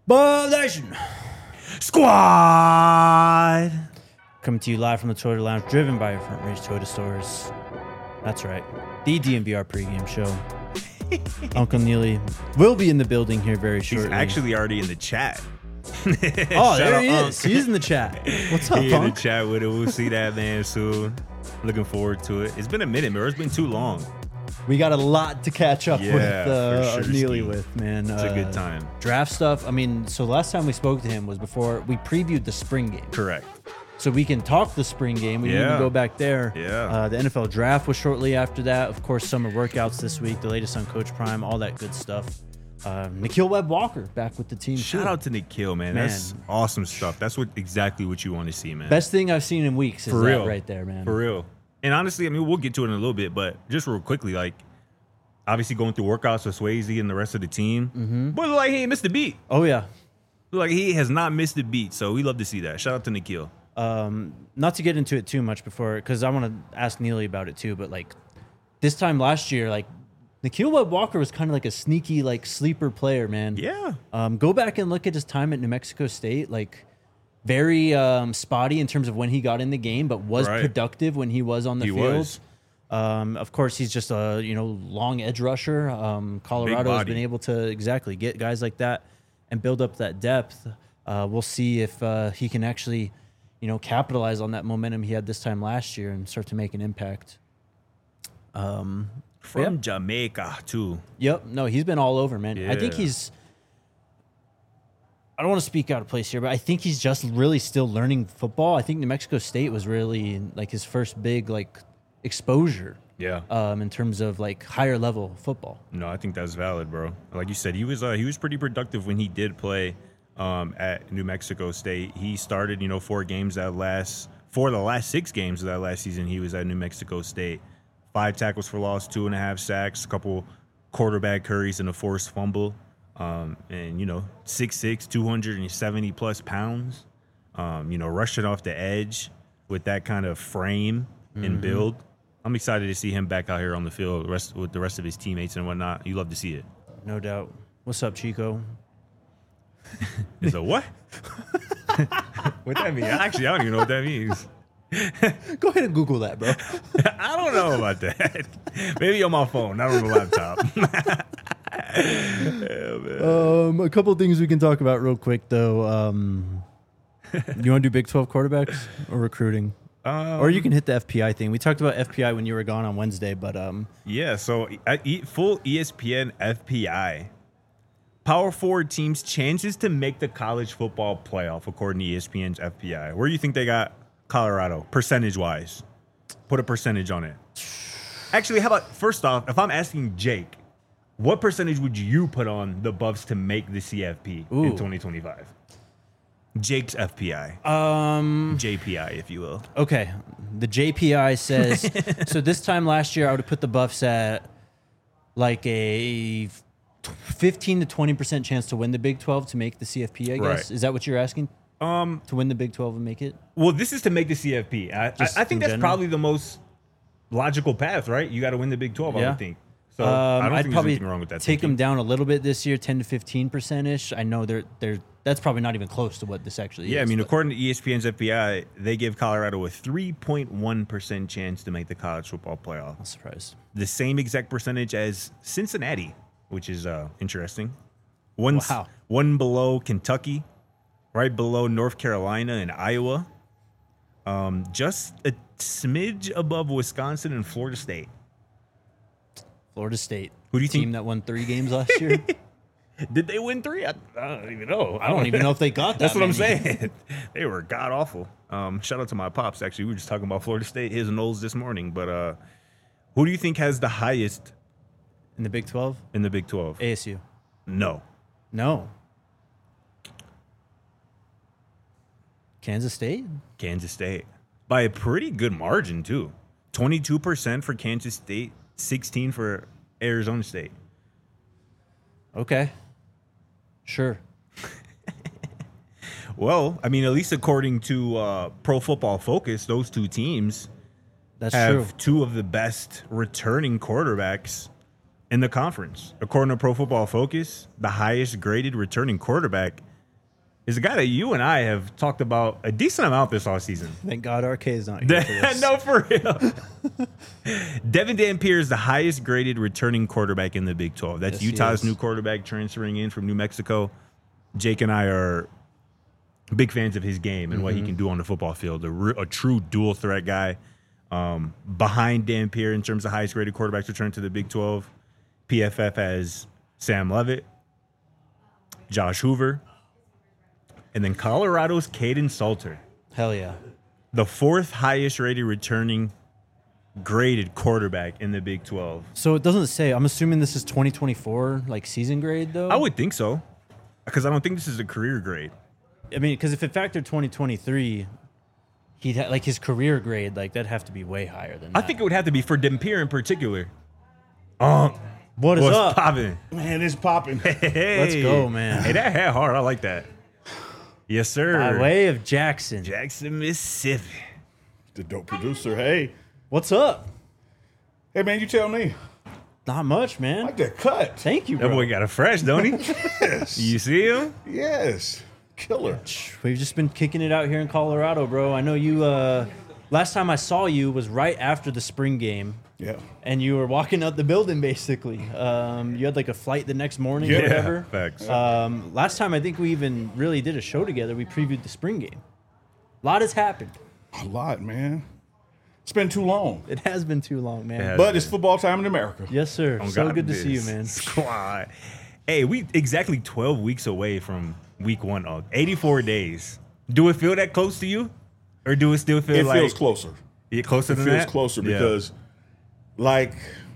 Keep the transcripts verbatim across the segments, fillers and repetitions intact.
Bub Nation Squad. coming to you live from the Toyota Lounge, driven by your Front Range Toyota stores. That's right, the D M V R pregame show. Uncle Neely will be in the building here very shortly. He's actually already in the chat. Oh, there he Unc. is. He's in the chat. What's up, He in the Unc? chat with it. We'll see that man soon. Looking forward to it. It's been a minute, man. It's been too long. We got a lot to catch up Yeah, with uh, for sure, Neely Steve. with, man. It's uh, a good time. Draft stuff. I mean, so last time we spoke to him was before we previewed the spring game. Correct. So we can talk the spring game. We didn't Yeah. even go back there. Yeah. Uh, the N F L draft was shortly after that. Of course, summer workouts this week, the latest on Coach Prime, all that good stuff. Uh, Nikhil Webb-Walker back with the team. Shout too. out to Nikhil, man. Man. That's awesome stuff. That's what exactly what you want to see, man. Best thing I've seen in weeks is For that real. right there, man. For real. And honestly, I mean, we'll get to it in a little bit, but just real quickly, like, obviously going through workouts with Swayze and the rest of the team, mm-hmm. but like he ain't missed a beat. Oh, yeah. Like he has not missed a beat, so we love to see that. Shout out to Nikhil. Um, not to get into it too much before, because I want to ask Neely about it too, but like this time last year, like Nikhil Webb-Walker was kind of like a sneaky, like sleeper player, man. Yeah. Um, go back and look at his time at New Mexico State, like very um, spotty in terms of when he got in the game, but was Right. productive when he was on the He field. was. Um, of course, he's just a you know long edge rusher. Um, Colorado has body. been able to exactly get guys like that and build up that depth. Uh, we'll see if uh, he can actually, you know, capitalize on that momentum he had this time last year and start to make an impact. Um, From yeah. Jamaica, too. Yep. No, he's been all over, man. I think Yeah. he's. I don't want to speak out of place here, but I think he's just really still learning football. I think New Mexico State was really like his first big like exposure Yeah. um, in terms of like higher level football. No, I think that's valid, bro. Like you said, he was uh, he was pretty productive when he did play um, at New Mexico State. He started, you know, four games that last for the last six games of that last season. He was at New Mexico State. Five tackles for loss, two and a half sacks, a couple quarterback hurries, and a forced fumble. Um, and you know, six six, two hundred seventy plus pounds. Um, you know, rushing off the edge with that kind of frame and build. I'm excited to see him back out here on the field rest, with the rest of his teammates and whatnot. You love to see it. No doubt. What's up, Chico? It's a what? What that mean? Actually, I don't even know what that means. Go ahead and Google that, bro. I don't know about that. Maybe on my phone, not on the laptop. Yeah, man. um, a couple of things we can talk about real quick, though. Um, you want to do Big twelve quarterbacks or recruiting? Um, Or you can hit the F P I thing. We talked about F P I when you were gone on Wednesday, but um, Yeah, so I eat full E S P N F P I. Power forward teams' chances to make the college football playoff, according to E S P N's F P I. Where do you think they got Colorado, percentage-wise? Put a percentage on it. Actually, how about, first off, if I'm asking Jake, what percentage would you put on the Buffs to make the C F P Ooh. in twenty twenty-five? Jake's F P I. um, J P I, if you will. okay. The J P I says so. This time last year, I would have put the Buffs at like a fifteen to twenty percent chance to win the Big twelve to make the C F P. I guess Right. is that what you're asking? Um, To win the Big twelve and make it? Well, this is to make the C F P. I, I, Just I think in that's general? probably the most logical path, right? You got to win the Big twelve, I Yeah. would think. So I Um, don't I'd think probably there's anything wrong with that. take thinking. them down a little bit this year, ten to fifteen percent ish. I know they're they're that's probably not even close to what this actually Yeah, I is. mean, but- according to E S P N's F P I, they give Colorado a three point one percent chance to make the college football playoff. I'm surprised. The same exact percentage as Cincinnati, which is uh, interesting. One, Wow. one below Kentucky, right below North Carolina and Iowa. Um, just a smidge above Wisconsin and Florida State. Florida State. Who do you team think- that won three games last year? Did they win three? I, I don't even know. I don't even know if they got that. That's what I'm many. saying. They were god awful. Um, shout out to my pops. Actually, we were just talking about Florida State, his and Knowles this morning. But uh, who do you think has the highest In the Big twelve? in the Big twelve? A S U. No, No. Kansas State? Kansas State by a pretty good margin too. Twenty-two percent for Kansas State, sixteen for Arizona State. Okay. Sure. Well, I mean, at least according to uh, Pro Football Focus, those two teams That's have true. two of the best returning quarterbacks in the conference. According to Pro Football Focus, the highest graded returning quarterback is a guy that you and I have talked about a decent amount this offseason. Thank God R K is not here for this. No, for real. Devin Dampier is the highest graded returning quarterback in the Big twelve. That's Yes, he Utah's is. new quarterback transferring in from New Mexico. Jake and I are big fans of his game and mm-hmm. what he can do on the football field. A, re- a true dual threat guy. Um, behind Dampier in terms of highest graded quarterbacks return to the Big twelve, P F F has Sam Leavitt, Josh Hoover, and then Colorado's Caden Salter. Hell yeah. The fourth highest rated returning graded quarterback in the Big twelve. So it doesn't say, I'm assuming this is twenty twenty-four, like season grade though? I would think so, because I don't think this is a career grade. I mean, because if it factored twenty twenty-three, he'd ha- like his career grade, like that'd have to be way higher than that. I think it would have to be for Dampier in particular. Um, what is what's up? popping? Man, it's popping. Hey, Let's go, man. Hey, that hat hard. I like that. Yes, sir. By way of Jackson. Jackson, Mississippi. The dope producer. Hey. What's up? Hey, man, you tell me. Not much, I man. like that cut. Thank you, That bro. boy got a fresh, don't he? Yes. You see him? Yes. Killer. We've just been kicking it out here in Colorado, bro. I know you, uh, last time I saw you was right after the spring game. Yeah. And you were walking out the building, basically. Um, you had like a flight the next morning Yeah. or whatever. Facts. Um, last time I think we even really did a show together. We previewed the spring game. A lot has happened. A lot, man. It's been too long. It has been too long, man. It has. But it's football time in America. Yes, sir. On So God good to see you, biz. man. Squad. Hey, we exactly twelve weeks away from week one. Of eighty-four days. Do it feel that close to you? Or do it still feel It like... feels closer. Yeah, closer It than feels that? closer Yeah. because, like,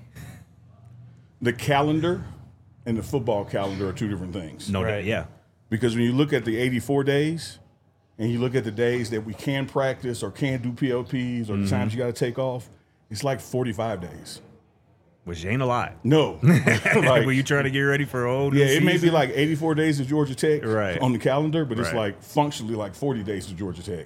the calendar and the football calendar are two different things. No doubt, Right. yeah. Because when you look at the eighty-four days and you look at the days that we can practice or can do P L Ps or Mm-hmm. the times you got to take off, it's like forty-five days. Which ain't a lot. No. Like, like, when you trying to get ready for a whole new yeah, it may be season? like eighty-four days of Georgia Tech Right. on the calendar, but it's Right. like functionally like forty days of Georgia Tech.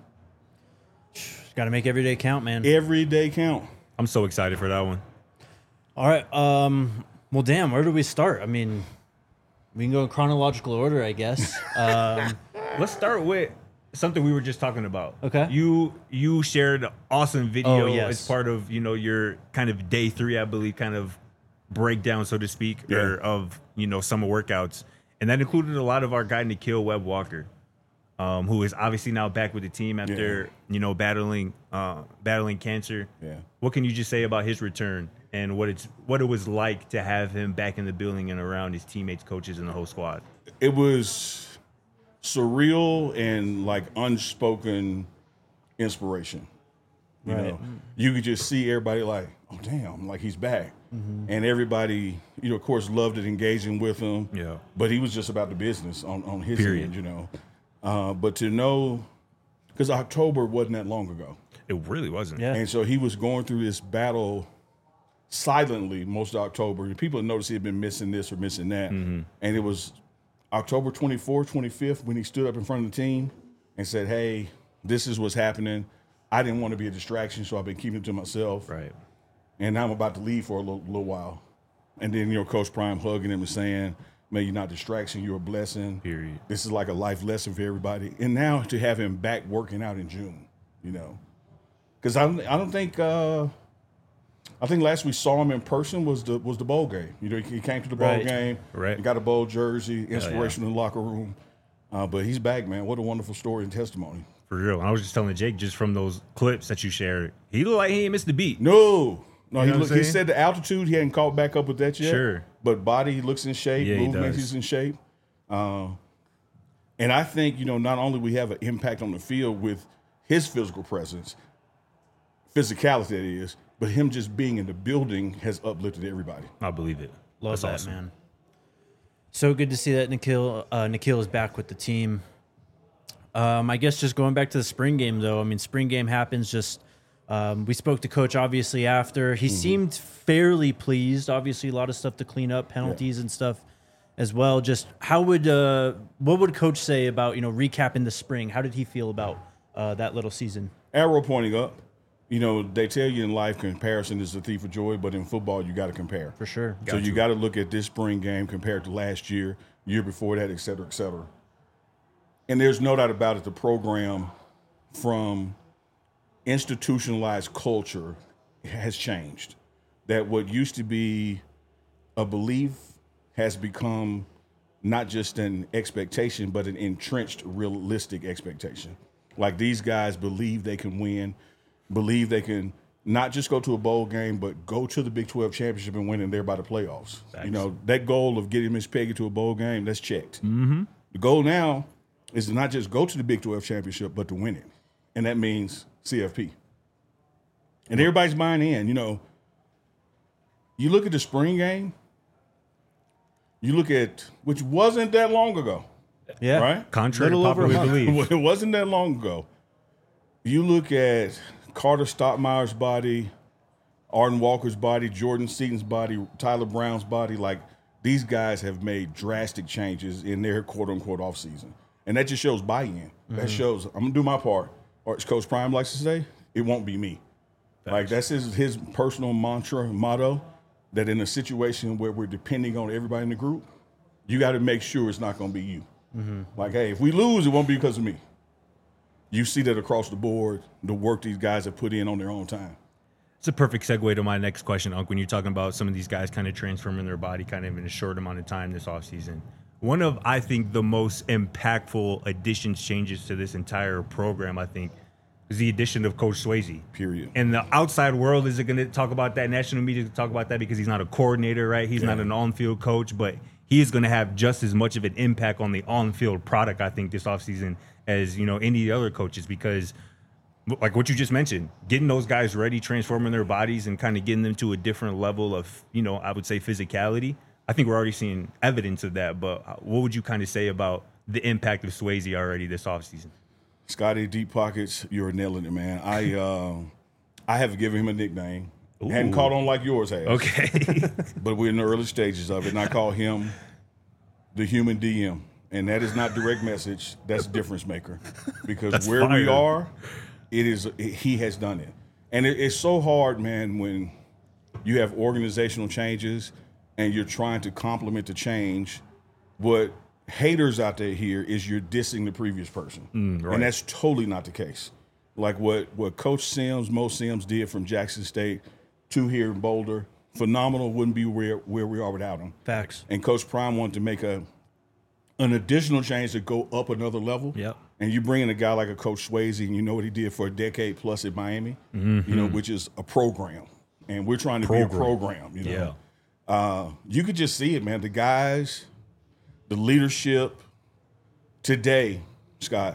Got to make every day count, man. Every day count. I'm so excited for that one. All right. Um, well, damn, where do we start? I mean, we can go in chronological order, I guess. Um, Let's start with something we were just talking about. Okay. You you shared an awesome video Oh, yes. as part of, you know, your kind of day three, I believe, kind of breakdown, so to speak, Yeah. or of, you know, summer workouts. And that included a lot of our guy, Nikhil Webb Walker, um, who is obviously now back with the team after, you know, battling uh, battling cancer. Yeah. What can you just say about his return and what it's what it was like to have him back in the building and around his teammates, coaches, and the whole squad? It was surreal and like unspoken inspiration. You Right. know, you could just see everybody like, oh damn, like he's back, and everybody, you know, of course, loved it, engaging with him. Yeah. But he was just about the business on on his Period. end, you know. Uh, but to know, because October wasn't that long ago, It really wasn't. yeah. and so he was going through this battle silently most of October. And people noticed he had been missing this or missing that. And it was October twenty-fourth, twenty-fifth when he stood up in front of the team and said, hey, this is what's happening. I didn't want to be a distraction, so I've been keeping it to myself. Right. And now I'm about to leave for a little, little while. And then, you know, Coach Prime hugging him and saying, man, you're not distraction, you're a blessing. Period. This is like a life lesson for everybody. And now to have him back working out in June, you know. Because I, don't- I don't think uh, I think last we saw him in person was the was the bowl game. You know, he, he came to the bowl Right. game. Right. He got a bowl jersey, inspiration in the locker room. Uh, but he's back, man. What a wonderful story and testimony. For real. I was just telling Jake, just from those clips that you shared, he looked like he ain't missed the beat. No. No, You he, know what look, I'm he saying? said the altitude, he hadn't caught back up with that yet. Sure. But body, he looks in shape. Yeah, he Movement, does. he's in shape. Uh, and I think, you know, not only we have an impact on the field with his physical presence, physicality that is, but him just being in the building has uplifted everybody. I believe it. Love That's that, awesome. man. So good to see that Nikhil, uh, Nikhil is back with the team. Um, I guess just going back to the spring game, though. I mean, spring game happens. Just um, we spoke to Coach obviously after. He seemed fairly pleased. Obviously, a lot of stuff to clean up, penalties and stuff as well. Just how would uh, what would Coach say about you know recapping the spring? How did he feel about uh, that little season? Arrow pointing up. You know, they tell you in life comparison is the thief of joy, but in football, you got to compare. For sure. So you got to look at this spring game compared to last year, year before that, et cetera, et cetera. And there's no doubt about it, the program from institutionalized culture has changed. That what used to be a belief has become not just an expectation, but an entrenched, realistic expectation. Like these guys believe they can win, believe they can not just go to a bowl game, but go to the Big twelve championship and win in there by the playoffs. Thanks. You know, that goal of getting Miss Peggy to a bowl game, that's checked. Mm-hmm. The goal now is to not just go to the Big twelve championship, but to win it. And that means C F P. And everybody's buying in. You know, you look at the spring game, you look at, which wasn't that long ago. Yeah. Right? Contrary to Little over a popular month. belief. It wasn't that long ago. You look at Carter Stottmeyer's body, Arden Walker's body, Jordan Seaton's body, Tyler Brown's body. Like, these guys have made drastic changes in their quote-unquote offseason. And that just shows buy-in. Mm-hmm. That shows, I'm going to do my part. Or as Coach Prime likes to say, it won't be me. Thanks. Like, that's his, his personal mantra, motto, that in a situation where we're depending on everybody in the group, you got to make sure it's not going to be you. Mm-hmm. Like, hey, if we lose, it won't be because of me. You see that across the board, the work these guys have put in on their own time. It's a perfect segue to my next question, Unc, when you're talking about some of these guys kind of transforming their body kind of in a short amount of time this offseason. One of, I think, the most impactful additions, changes to this entire program, I think, is the addition of Coach Swayze. Period. And the outside world isn't going to talk about that. National media to talk about that because he's not a coordinator, right? He's yeah. not an on-field coach, but he is going to have just as much of an impact on the on-field product, I think, this offseason as, you know, any other coaches, because like what you just mentioned, getting those guys ready, transforming their bodies and kind of getting them to a different level of, you know, I would say physicality. I think we're already seeing evidence of that, but what would you kind of say about the impact of Swayze already this offseason? Scotty, deep pockets, you're nailing it, man. I uh, I have given him a nickname. Ooh. Hadn't caught on like yours has. Okay. But we're in the early stages of it, and I call him the human D M. And that is not direct message. That's difference maker. Because That's where fire. we are, it is it, he has done it. And it, it's so hard, man, when you have organizational changes and you're trying to complement the change. What haters out there here is you're dissing the previous person. Mm, right. And that's totally not the case. Like what, what Coach Sims, Mo Sims did from Jackson State to here in Boulder, phenomenal, wouldn't be where, where we are without him. Facts. And Coach Prime wanted to make a an additional change to go up another level. Yep. And you bring in a guy like a Coach Swayze, and you know what he did for a decade plus at Miami, mm-hmm. you know, which is a program. And we're trying to program. be a program, you know. Yeah. Uh, you could just see it, man. The guys, the leadership today, Scott,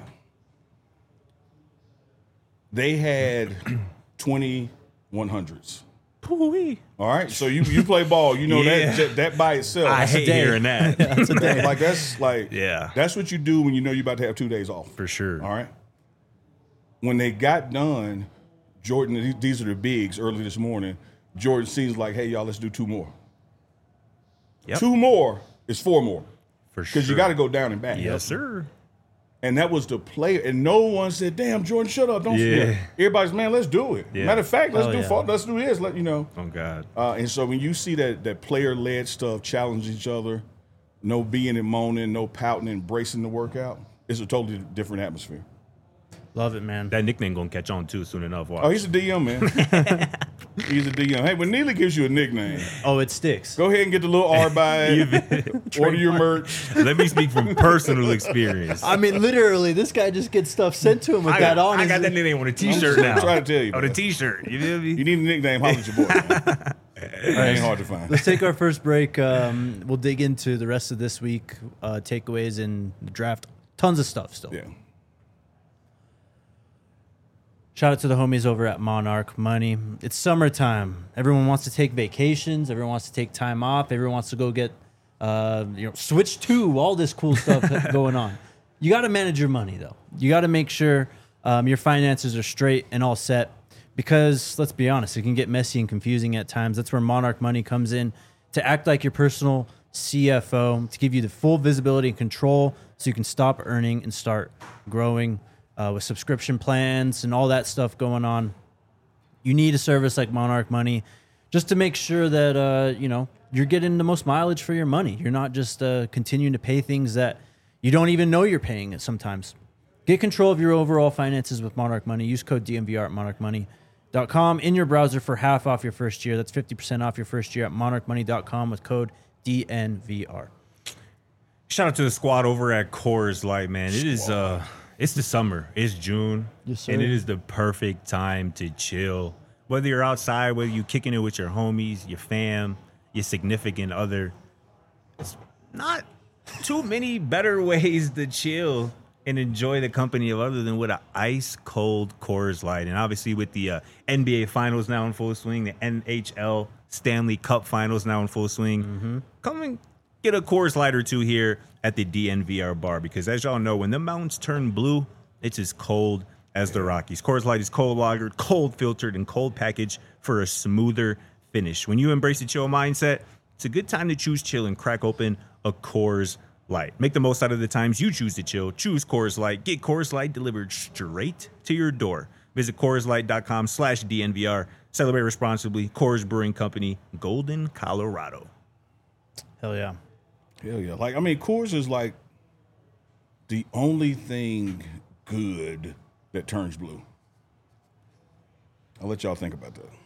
they had twenty-one hundreds. Pooey. All right, so you you play ball, you know yeah. that that by itself. I that's hate a day. hearing that. That's a day. Like that's like yeah. That's what you do when you know you're about to have two days off. For sure. All right. When they got done, Jordan, these are the bigs early this morning. Jordan seems like, hey y'all, let's do two more. Yep. Two more is four more. For sure. Because you got to go down and back. Yes, sir. And that was the player, and no one said, "Damn, Jordan, shut up, don't yeah. forget." Everybody's, man, let's do it. Yeah. Matter of fact, let's oh, do yeah. fault, let's do this. Let you know. Oh God. Uh, and so when you see that that player-led stuff, challenge each other, no being and moaning, no pouting, embracing the workout, it's a totally different atmosphere. Love it, man. That nickname gonna catch on too soon enough. Watch. Oh, he's a D M, man. He's a D M. Hey, when Neely gives you a nickname, Oh, it sticks. go ahead and get the little R by it. Order your merch. Let me speak from personal experience. I mean, literally, this guy just gets stuff sent to him with I that got, on. I His- got that nickname on a T-shirt I'm now. trying to tell you, On a man. T-shirt. You feel me? You need a nickname, holler at your boy. Man. It ain't hard to find. Let's take our first break. Um, we'll dig into the rest of this week, uh, takeaways and the draft. Tons of stuff still. Yeah. Shout out to the homies over at Monarch Money. It's summertime. Everyone wants to take vacations. Everyone wants to take time off. Everyone wants to go get, uh, you know, switch to all this cool stuff going on. You got to manage your money, though. You got to make sure um, your finances are straight and all set because, let's be honest, it can get messy and confusing at times. That's where Monarch Money comes in to act like your personal C F O, to give you the full visibility and control so you can stop earning and start growing. Uh, with subscription plans and all that stuff going on, you need a service like Monarch Money just to make sure that uh, you know you're getting the most mileage for your money. You're not just uh, continuing to pay things that You don't even know you're paying it sometimes. Get control of your overall finances with Monarch Money. Use code D N V R at monarch money dot com in your browser for half off your first year. That's fifty percent off your first year at monarch money dot com with code D N V R. Shout out to the squad over at Coors Light, man. It is uh it's the summer. It's June. Yes, sir. And it is the perfect time to chill. Whether you're outside, whether you're kicking it with your homies, your fam, your significant other. It's not too many better ways to chill and enjoy the company of other than with an ice cold Coors Light. And obviously with the uh, N B A Finals now in full swing, the N H L Stanley Cup Finals now in full swing, mm-hmm. come and get a Coors Light or two here at the D N V R bar, because as y'all know, when the mountains turn blue, it's as cold as the Rockies. Coors Light is cold lagered, cold filtered, and cold packaged for a smoother finish. When you embrace the chill mindset, it's a good time to choose chill and crack open a Coors Light. Make the most out of the times you choose to chill. Choose Coors Light. Get Coors Light delivered straight to your door. Visit Coors Light dot com slash D N V R. Celebrate responsibly. Coors Brewing Company, Golden, Colorado. Hell yeah. Hell yeah. Like, I mean, Coors is like the only thing good that turns blue. I'll let y'all think about that.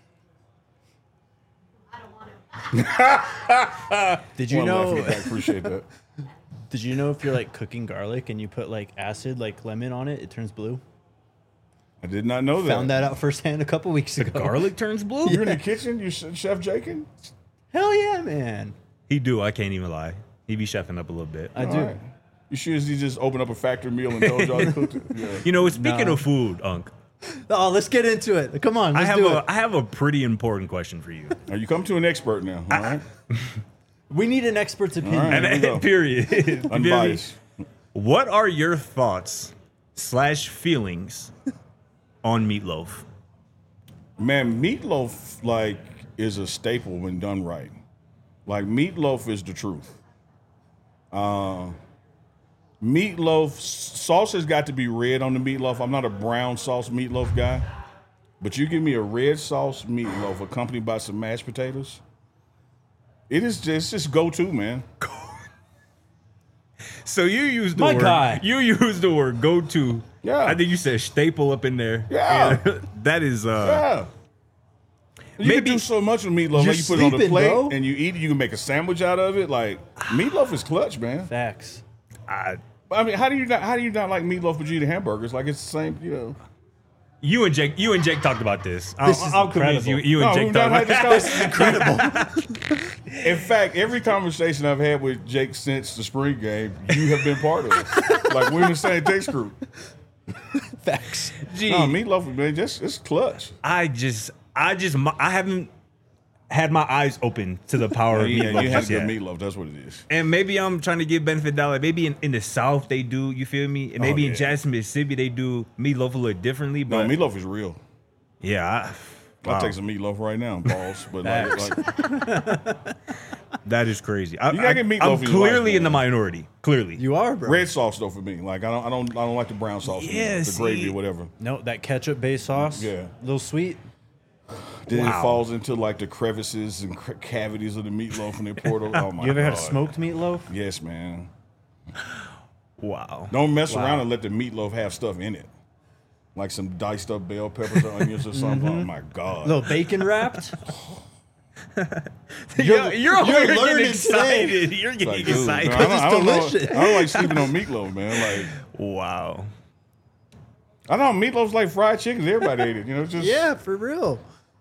Did you One laugh in know? the back. Appreciate that. Did you know if you're like cooking garlic and you put like acid, like lemon on it, it turns blue? I did not know that. Found that out firsthand a couple weeks ago. Garlic turns blue? You're in the kitchen? You Chef Jakin? Hell yeah, man. He do. I can't even lie. He be chefing up a little bit. I All do. right. You sure as he just opened up a factory meal and told y'all to cook it? Yeah. You know, speaking No. of food, Unc, Oh, let's get into it. Come on, I let's have do a it. I have a pretty important question for you. Now, you come to an expert now, all right? We need an expert's opinion. All right. And Here we go. period. You feel me? Unbiased. What are your thoughts slash feelings on meatloaf? Man, meatloaf, like, is a staple when done right. Like, meatloaf is the truth. Uh, meatloaf, sauce has got to be red on the meatloaf. I'm not a brown sauce meatloaf guy. But you give me a red sauce meatloaf accompanied by some mashed potatoes, it is just, it's just go-to, man. So you use the My word guy. you use the word go to. Yeah. I think you said staple up in there. Yeah. And that is uh Yeah. You Maybe- can do so much with meatloaf. You're Like, you put it on the sleeping, plate bro. and you eat it. You can make a sandwich out of it. Like, meatloaf is clutch, man. Facts. I, I mean, how do you not how do you not like meatloaf but you eat hamburgers? Like, it's the same, you know. you and Jake you and Jake talked about this. This I'll, is I'll convince you. incredible. You and No, Jake we've talked not about had this this. conversation. In fact, every conversation I've had with Jake since the spring game, you have been part of it. Like, we're in the same text group. Facts. Gee, No, meatloaf, man, just it's clutch. I just I just I haven't had my eyes open to the power of Yeah, meatloaf. you have just good yet. meatloaf. That's what it is. And maybe I'm trying to give benefit dollar. Maybe in, in the South they do, you feel me? And maybe Oh, yeah. in Jackson, Mississippi they do meatloaf a little differently. No, But meatloaf is real. yeah, I, I'll wow. take some meatloaf right now, balls. But like, like That is crazy. I, You gotta I, get meatloaf I'm in your life, clearly in the man. minority. Clearly. You are, bro. red sauce though for me. Like, I don't, I don't, I don't like the brown sauce. Yeah, the see. gravy or whatever. No, that ketchup based sauce. Yeah. A little sweet. Then Wow. it falls into like the crevices and cr- cavities of the meatloaf and they pour it over. Oh my You ever god! had a smoked meatloaf? Yes, man. Wow. Don't mess Wow. around and let the meatloaf have stuff in it, like some diced up bell peppers or onions or something. Oh my god! A little bacon wrapped? You're, you're, over you're here getting learning excited. You're getting Like, dude, excited. man, I don't, I don't know- delicious. I don't like sleeping on meatloaf, man. Like, Wow. I don't know, meatloaf's like fried chicken. Everybody ate it. You know, it's just Yeah, for real.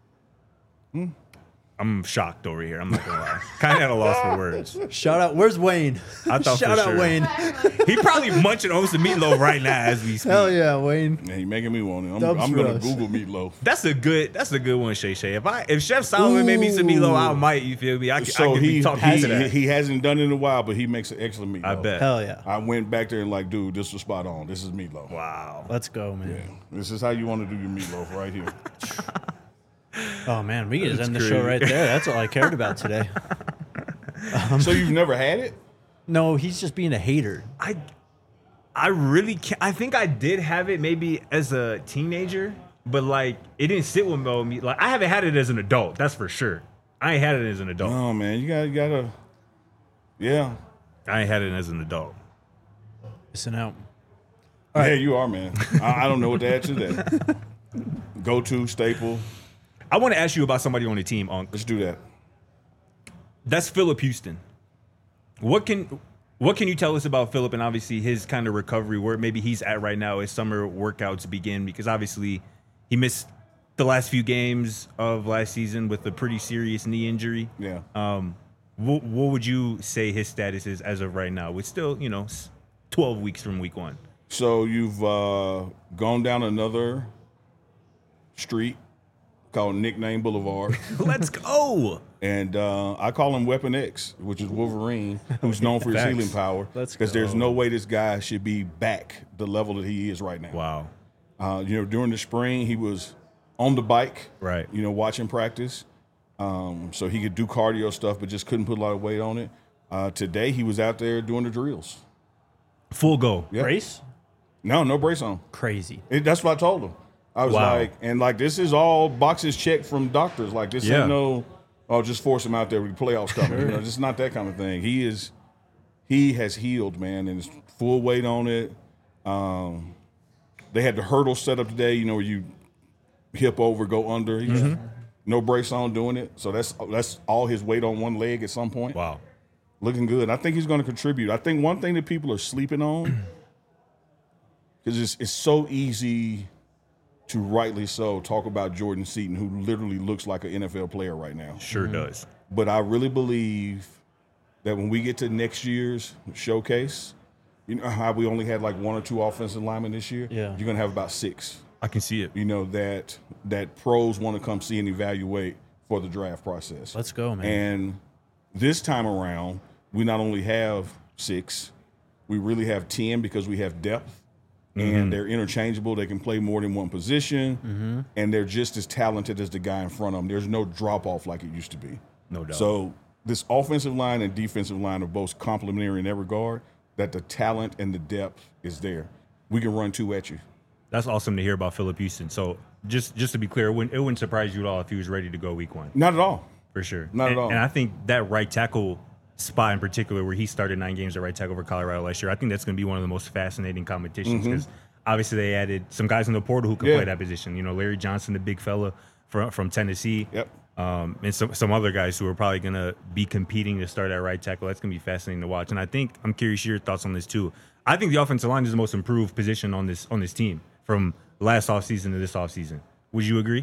I'm shocked over here. I'm not gonna lie. Kind of at a loss for words. Shout out. Where's Wayne? I thought Shout for out sure. Wayne. He probably munching on some meatloaf right now as we speak. Hell yeah, Wayne. Yeah, he making me want it. I'm, Dubs I'm gonna Rush. Google meatloaf. That's a good. That's a good one, Shay Shay. If I if Chef Solomon made me some meatloaf, I might. You feel me? I could, I So could he be talking he, to that. he hasn't done it in a while, but he makes an excellent meatloaf. I bet. Hell yeah. I went back there and like, dude, this was spot on. This is meatloaf. Wow. Let's go, man. Yeah, this is how you want to do your meatloaf right here. Oh man, we can just That's end the crazy. show right there. That's all I cared about today. So you've never had it? No, he's just being a hater. I I really can't. I think I did have it maybe as a teenager, but like it didn't sit with me. Like I haven't had it as an adult. That's for sure. I ain't had it as an adult. Oh man, you got you gotta. Yeah, I ain't had it as an adult. Missing out. Yeah, you are, man. I, I don't know what to add to that. Go to staple. I want to ask you about somebody on the team, Unc. Let's do that. That's Phillip Houston. What can what can you tell us about Phillip and obviously his kind of recovery, where maybe he's at right now as summer workouts begin? Because obviously he missed the last few games of last season with a pretty serious knee injury. Yeah. Um, what, what would you say his status is as of right now? With still, you know, twelve weeks from week one. So you've uh, gone down another street called Nickname Boulevard. Let's go. And uh, I call him Weapon X, which is Wolverine, who's known for his Facts. healing power. Let's Because there's go. no way this guy should be back the level that he is right now. Wow. Uh, you know, during the spring, he was on the bike, Right. you know, watching practice. Um, so he could do cardio stuff, but just couldn't put a lot of weight on it. Uh, today, he was out there doing the drills. Full go. Yep. Brace? No, no brace on. Crazy. It, that's what I told him. I was Wow. like, and like, this is all boxes checked from doctors. Like, this Yeah. ain't no, oh, just force him out there with the playoffs coming. You know, it's not that kind of thing. He is, he has healed, man, and it's full weight on it. Um, they had the hurdle set up today, you know, where you hip over, go under. He just, no brace on doing it. So that's that's all his weight on one leg at some point. Wow. Looking good. I think he's going to contribute. I think one thing that people are sleeping on, because it's, it's so easy to rightly so talk about Jordan Seaton, who literally looks like an N F L player right now. Sure does. But I really believe that when we get to next year's showcase, you know how we only had like one or two offensive linemen this year? Yeah. You're going to have about six. I can see it. You know, that that pros want to come see and evaluate for the draft process. Let's go, man. And this time around, we not only have six, we really have ten because we have depth. And they're interchangeable. They can play more than one position. Mm-hmm. And they're just as talented as the guy in front of them. There's no drop-off like it used to be. No doubt. So this offensive line and defensive line are both complementary in that regard, that the talent and the depth is there. We can run two at you. That's awesome to hear about Phillip Houston. So just just to be clear, it wouldn't, it wouldn't surprise you at all if he was ready to go week one. Not at all. For sure. Not at and, all. And I think that right tackle spot in particular, where he started nine games at right tackle for Colorado last year, I think that's going to be one of the most fascinating competitions because obviously they added some guys in the portal who can Yeah. play that position. You know, Larry Johnson, the big fella from, from Tennessee. Yep. Um, and some, some other guys who are probably going to be competing to start at right tackle. That's going to be fascinating to watch. And I think, I'm curious your thoughts on this too. I think the offensive line is the most improved position on this on this team from last offseason to this offseason. Would you agree?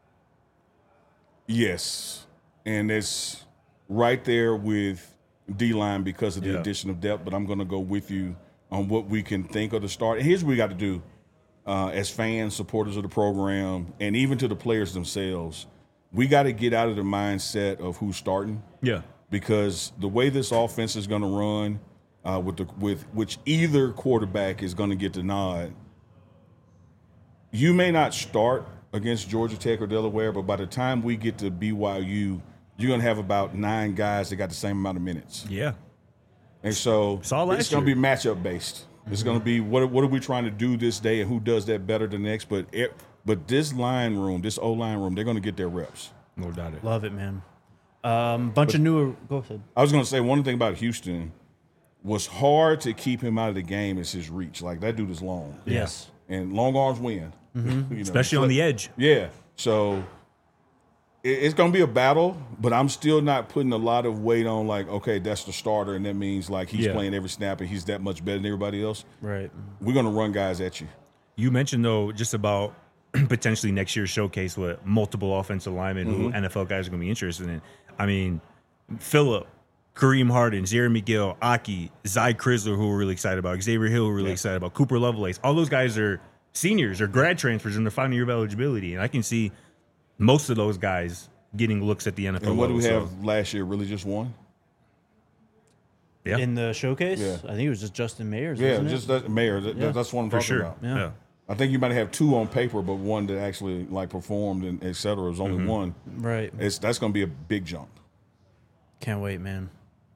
Yes. And it's right there with D-line because of the Yeah. addition of depth, but I'm going to go with you on what we can think of the start. And here's what we got to do uh, as fans, supporters of the program, and even to the players themselves. We got to get out of the mindset of who's starting. Yeah. Because the way this offense is going to run, uh, with the with which either quarterback is going to get the nod, you may not start against Georgia Tech or Delaware, but by the time we get to B Y U, you're going to have about nine guys that got the same amount of minutes. Yeah. And so Saw last it's going to year. be matchup based. It's going to be what what are we trying to do this day and who does that better than the next. But it, but this line room, this O line room, they're going to get their reps. No doubt it. Love it, man. Um, bunch of newer. Go ahead. I was going to say one thing about Houston was hard to keep him out of the game is his reach. Like that dude is long. Yes. And long arms win. You know, Especially on the edge. Yeah. So it, it's going to be a battle, but I'm still not putting a lot of weight on like, okay, that's the starter, and that means like he's Yeah. playing every snap and he's that much better than everybody else. Right. We're going to run guys at you. You mentioned, though, just about potentially next year's showcase with multiple offensive linemen who N F L guys are going to be interested in. I mean, Phillip, Kareem Harden, Jeremy Gill, Aki, Zy Crisler, who we're really excited about, Xavier Hill, who we're really Yeah. excited about, Cooper Lovelace. All those guys are seniors or grad transfers in their final year of eligibility. And I can see most of those guys getting looks at the N F L And what do level, we so, have last year? Really just one? yeah, In the showcase, Yeah. I think it was just Justin Mayers. Yeah, wasn't just it? that mayor. That, Yeah. That's what I'm for talking sure. about. Yeah. Yeah. I think you might have two on paper, but one that actually like performed and et cetera. There's only one. Right. It's that's going to be a big jump. Can't wait, man.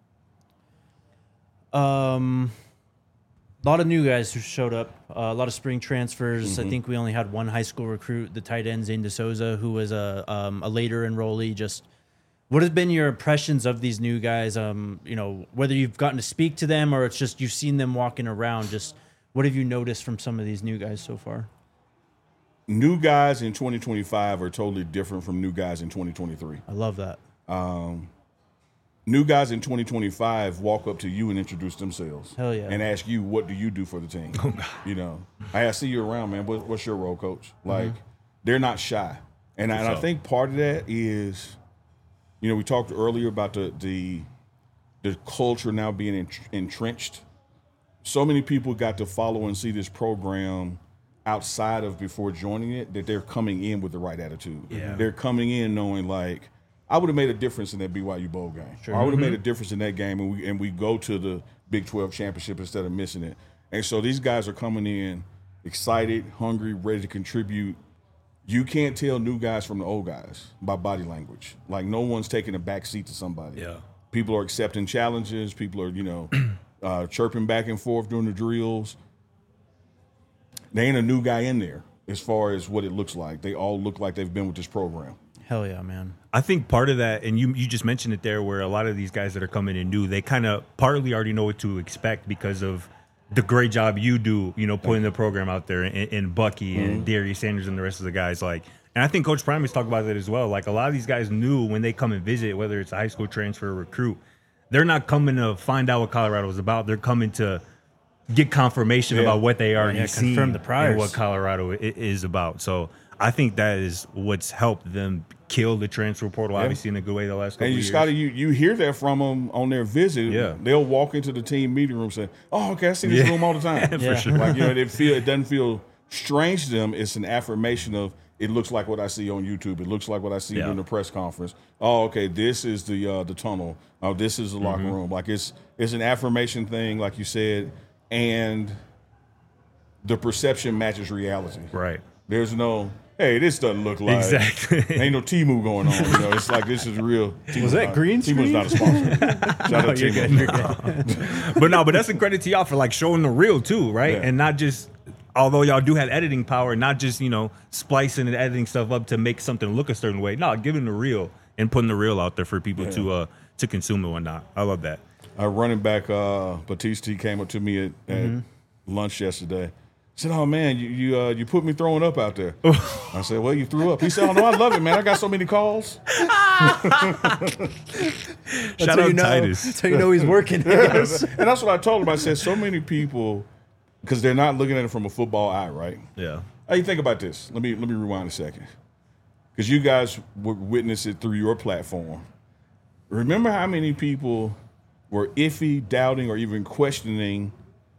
Um, a lot of new guys who showed up. Uh, a lot of spring transfers. I think we only had one high school recruit, the tight end Zane DeSouza, who was a um, a later enrollee, just What have been your impressions of these new guys? Um, you know, whether you've gotten to speak to them or it's just you've seen them walking around. Just what have you noticed from some of these new guys so far? New guys in twenty twenty-five are totally different from new guys in twenty twenty-three. I love that. Um, new guys in twenty twenty-five walk up to you and introduce themselves. Hell yeah. And ask you, what do you do for the team? You know, hey, I see you around, man. What, what's your role, coach? Like, mm-hmm. they're not shy. And, I, and I think part of that is, you know, we talked earlier about the the, the culture now being entrenched. So many people got to follow and see this program outside of before joining it, that they're coming in with the right attitude. Yeah. They're coming in knowing, like, I would have made a difference in that B Y U bowl game. Sure. Or I would have mm-hmm. made a difference in that game, and we and we go to the Big twelve championship instead of missing it. And so these guys are coming in excited, hungry, ready to contribute. You can't tell new guys from the old guys by body language. Like, no one's taking a back seat to somebody. Yeah. People are accepting challenges. People are, you know, uh, chirping back and forth during the drills. There ain't a new guy in there as far as what it looks like. They all look like they've been with this program. Hell yeah, man. I think part of that, and you you just mentioned it there, where a lot of these guys that are coming in new, they kind of partly already know what to expect because of the great job you do, you know, putting the program out there, and, and Bucky mm-hmm. and Darius Sanders and the rest of the guys. Like, and I think Coach Primus talked about that as well. Like, a lot of these guys knew when they come and visit, whether it's a high school transfer or recruit, they're not coming to find out what Colorado is about. They're coming to get confirmation yeah. about what they already yeah, see confirm the priors. And what Colorado is about. So I think that is what's helped them kill the transfer portal, yeah. obviously in a good way the last couple and you, of years. Scotty, you you hear that from them on their visit. Yeah. They'll walk into the team meeting room saying, "Oh, okay, I see this yeah. room all the time." For yeah. sure. Like, you know, it feel it doesn't feel strange to them. It's an affirmation of, it looks like what I see on YouTube. It looks like what I see yeah. during the press conference. Oh, okay, this is the uh, the tunnel. Oh, this is the locker mm-hmm. room. Like, it's it's an affirmation thing, like you said, and the perception matches reality. Right. There's no, hey, this doesn't look like. Exactly. Ain't no Temu going on. You know, it's like, this is real. Temu's Was that not, green Temu's screen? not a sponsor. Shout no, out to you're good, you're good. But no, but that's a credit to y'all for like showing the real too, right? Yeah. And not just, although y'all do have editing power, not just, you know, splicing and editing stuff up to make something look a certain way. No, giving the real and putting the real out there for people Yeah. to uh to consume and whatnot. I love that. Our running back, uh, Batiste, came up to me at, Mm-hmm. at lunch yesterday. Said, "Oh man, you you uh, you put me throwing up out there." I said, "Well, you threw up." He said, "Oh no, I love it, man. I got so many calls." Shout out you know, Titus. That's how you know he's working. And that's what I told him. I said, so many people, because they're not looking at it from a football eye, right? Yeah. Hey, think about this. Let me let me rewind a second, because you guys would witness it through your platform. Remember how many people were iffy, doubting, or even questioning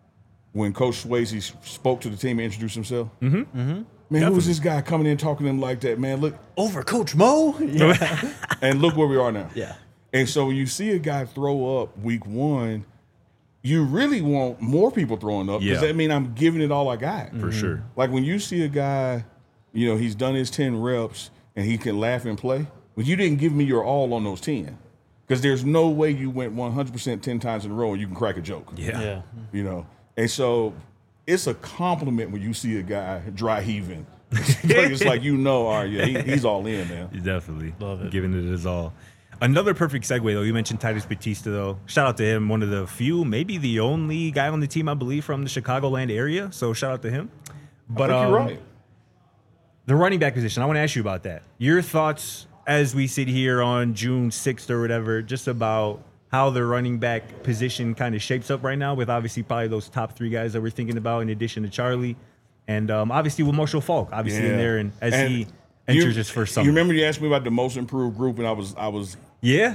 when Coach Swayze spoke to the team and introduced himself? Mm-hmm. Mm-hmm. Man, Definitely. who was this guy coming in talking to him like that? Man, look. Over Coach Mo? Yeah. And look where we are now. yeah. And so when you see a guy throw up week one, you really want more people throwing up, because Yeah. that means I'm giving it all I got. For sure. Like, when you see a guy, you know, he's done his ten reps and he can laugh and play, but you didn't give me your all on those ten. Because there's no way you went one hundred percent ten times in a row and you can crack a joke. Yeah. Yeah. You know? And so it's a compliment when you see a guy dry heaving. It's like, you know, all right, yeah, he, he's all in, man. Definitely. Love it. Giving it his all. Another perfect segue, though. You mentioned Titus Batista, though. Shout out to him. One of the few, maybe the only guy on the team, I believe, from the Chicagoland area. So shout out to him. But I think um, you're right. the running back position, I want to ask you about that. Your thoughts as we sit here on June sixth or whatever, just about how the running back position kind of shapes up right now, with obviously probably those top three guys that we're thinking about in addition to Charlie. And um, obviously with Marshall Falk, obviously Yeah. in there, and as And he enters you, his first summer. You remember you asked me about the most improved group, and I was I was Yeah?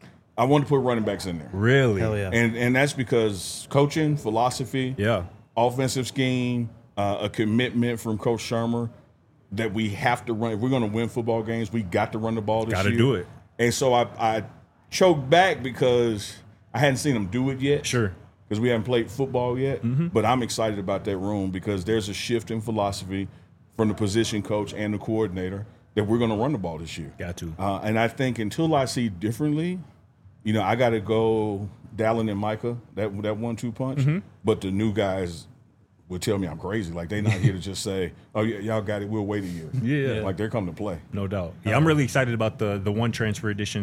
I wanted to put running backs in there. Really? Hell yeah. And and that's because coaching, philosophy, Yeah. offensive scheme, uh, a commitment from Coach Shermer that we have to run. If we're going to win football games, we got to run the ball this Gotta year. do it. And so I, I choked back because I hadn't seen them do it yet. Sure. Because we haven't played football yet. Mm-hmm. But I'm excited about that room, because there's a shift in philosophy from the position coach and the coordinator that we're going to run the ball this year. Got to. Uh, and I think until I see differently, you know, I got to go Dallin and Micah, that that one two punch. Mm-hmm. But the new guys would tell me I'm crazy. Like, they're not here to just say, oh, yeah, y'all got it, we'll wait a year. Yeah. Like, they're coming to play. No doubt. Yeah, I'm really excited about the the one transfer edition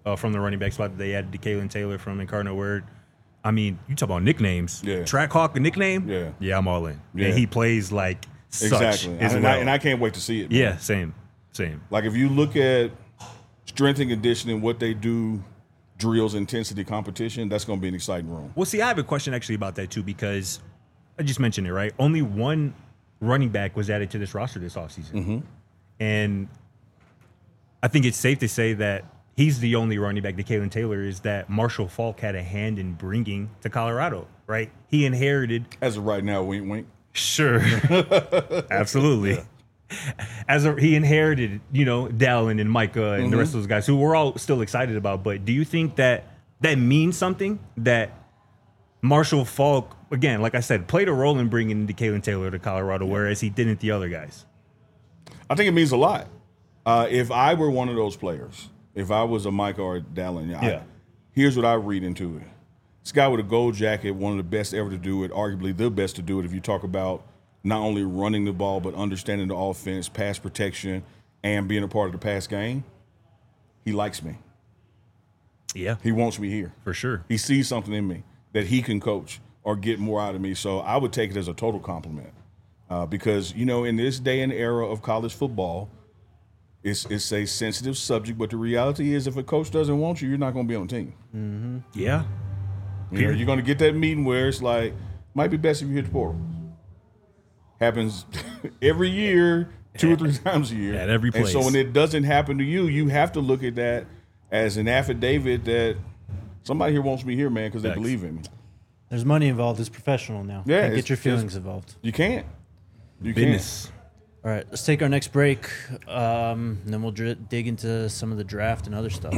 uh, from the running back spot that they added to Kalen Taylor from Incarnate Word. I mean, you talk about nicknames. Yeah. Trackhawk, a nickname? Yeah. Yeah, I'm all in. Yeah. And he plays like such Exactly. as And, well. I, and I can't wait to see it. Man. yeah, same. Same. Like if you look at strength and conditioning, what they do, drills, intensity, competition, that's going to be an exciting room. Well, see, I have a question actually about that too, because I just mentioned it, right? Only one running back was added to this roster this offseason. Mm-hmm. And I think it's safe to say that he's the only running back that Kalen Taylor is that Marshall Faulk had a hand in bringing to Colorado, right? He inherited. As of right now, wink, wink. Sure. Absolutely. Yeah. As a, he inherited, you know, Dallin and Micah and mm-hmm. the rest of those guys who we're all still excited about. But do you think that that means something that Marshall Faulk, again, like I said, played a role in bringing Kalen Taylor to Colorado, whereas he didn't the other guys? I think it means a lot. Uh, if I were one of those players, if I was a Micah or a Dallin, yeah. I, here's what I read into it. This guy with a gold jacket, one of the best ever to do it, arguably the best to do it if you talk about not only running the ball, but understanding the offense, pass protection, and being a part of the pass game. He likes me. Yeah. He wants me here. For sure. He sees something in me that he can coach or get more out of me. So I would take it as a total compliment. Uh, because, you know, in this day and era of college football, it's it's a sensitive subject. But the reality is if a coach doesn't want you, you're not going to be on the team. Mm-hmm. Yeah. You know, you're going to get that meeting where it's like, might be best if you hit the portal. Happens every year, two or three times a year. At every place. And so when it doesn't happen to you, you have to look at that as an affidavit that somebody here wants me here, man, because they believe in me. There's money involved. It's professional now. Yeah, Can't it's- get your feelings it's- involved. You can't. You Business. All right, let's take our next break, um, and then we'll dr- dig into some of the draft and other stuff.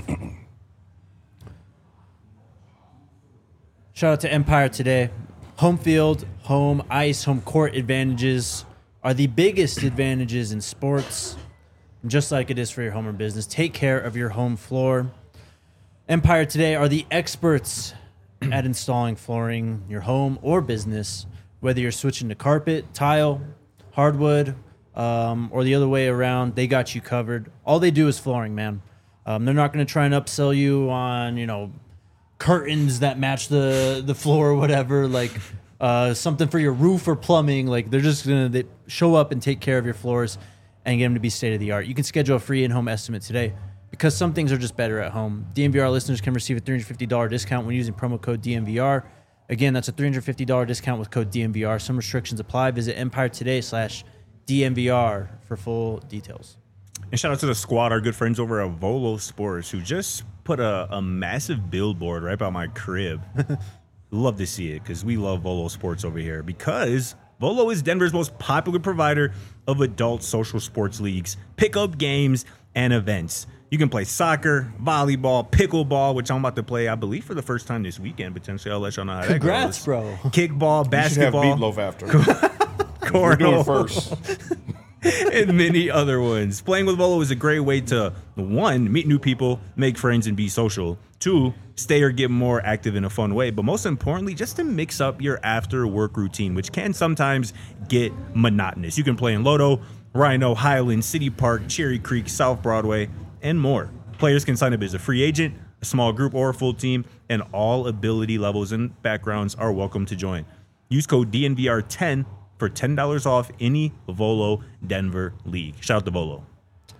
Shout out to Empire today. Home field, home ice, home court advantages are the biggest advantages in sports. And just like it is for your home or business, take care of your home floor. Empire today are the experts at installing flooring in your home or business, whether you're switching to carpet, tile, hardwood, um, or the other way around. They got you covered. All they do is flooring, man. Um, they're not going to try and upsell you on, you know, curtains that match the the floor or whatever, like uh, something for your roof or plumbing. Like they're just gonna they show up and take care of your floors and get them to be state of the art. You can schedule a free in-home estimate today because some things are just better at home. D M V R listeners can receive a three hundred fifty dollars discount when using promo code D M V R. Again, that's a three hundred fifty dollars discount with code D M V R. Some restrictions apply. Visit Empire today slash D M V R for full details. And shout out to the squad, our good friends over at Volo Sports, who just put a, a massive billboard right by my crib. Love to see it because we love Volo Sports over here because Volo is Denver's most popular provider of adult social sports leagues, pickup games, and events. You can play soccer, volleyball, pickleball, which I'm about to play, I believe, for the first time this weekend. Potentially, I'll let y'all know how Congrats, that goes. bro. Kickball, You should have basketball, meatloaf after. We're doing it first. and many other ones. Playing with Volo is a great way to, one, meet new people, make friends, and be social. Two, stay or get more active in a fun way. But most importantly, just to mix up your after-work routine, which can sometimes get monotonous. You can play in Lodo, Rhino, Highland, City Park, Cherry Creek, South Broadway, and more. Players can sign up as a free agent, a small group, or a full team, and all ability levels and backgrounds are welcome to join. Use code D N V R ten for ten dollars off any Volo Denver league. Shout out to Volo. All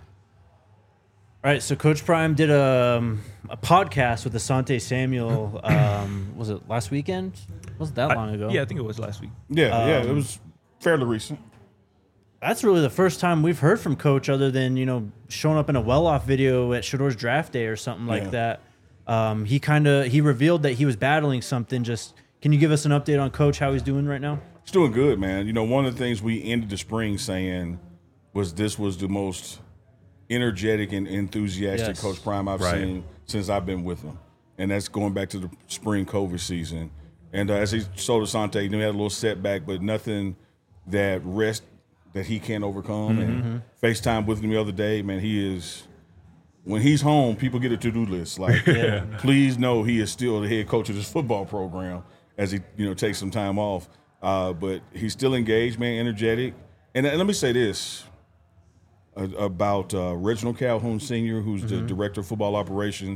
right, so Coach Prime did a, um, a podcast with Asante Samuel. Um, was it last weekend? Wasn't that long ago? I, yeah, I think it was last week. Yeah, Um, yeah, it was fairly recent. That's really the first time we've heard from Coach, other than you know showing up in a well-off video at Shador's draft day or something like Yeah. that. Um, he kind of he revealed that he was battling something. Just can you give us an update on Coach, how he's doing right now? It's doing good, man. You know, one of the things we ended the spring saying was this was the most energetic and enthusiastic Yes. Coach Prime I've Right. seen since I've been with him. And that's going back to the spring COVID season. And uh, as he told Asante, you know, he had a little setback, but nothing that rest that he can't overcome. And FaceTime with him the other day, man, he is – when he's home, people get a to-do list. Like, please know he is still the head coach of this football program as he, you know, takes some time off. Uh, but he's still engaged, man, energetic. And, and let me say this uh, about uh, Reginald Calhoun Senior, who's the director of football operations.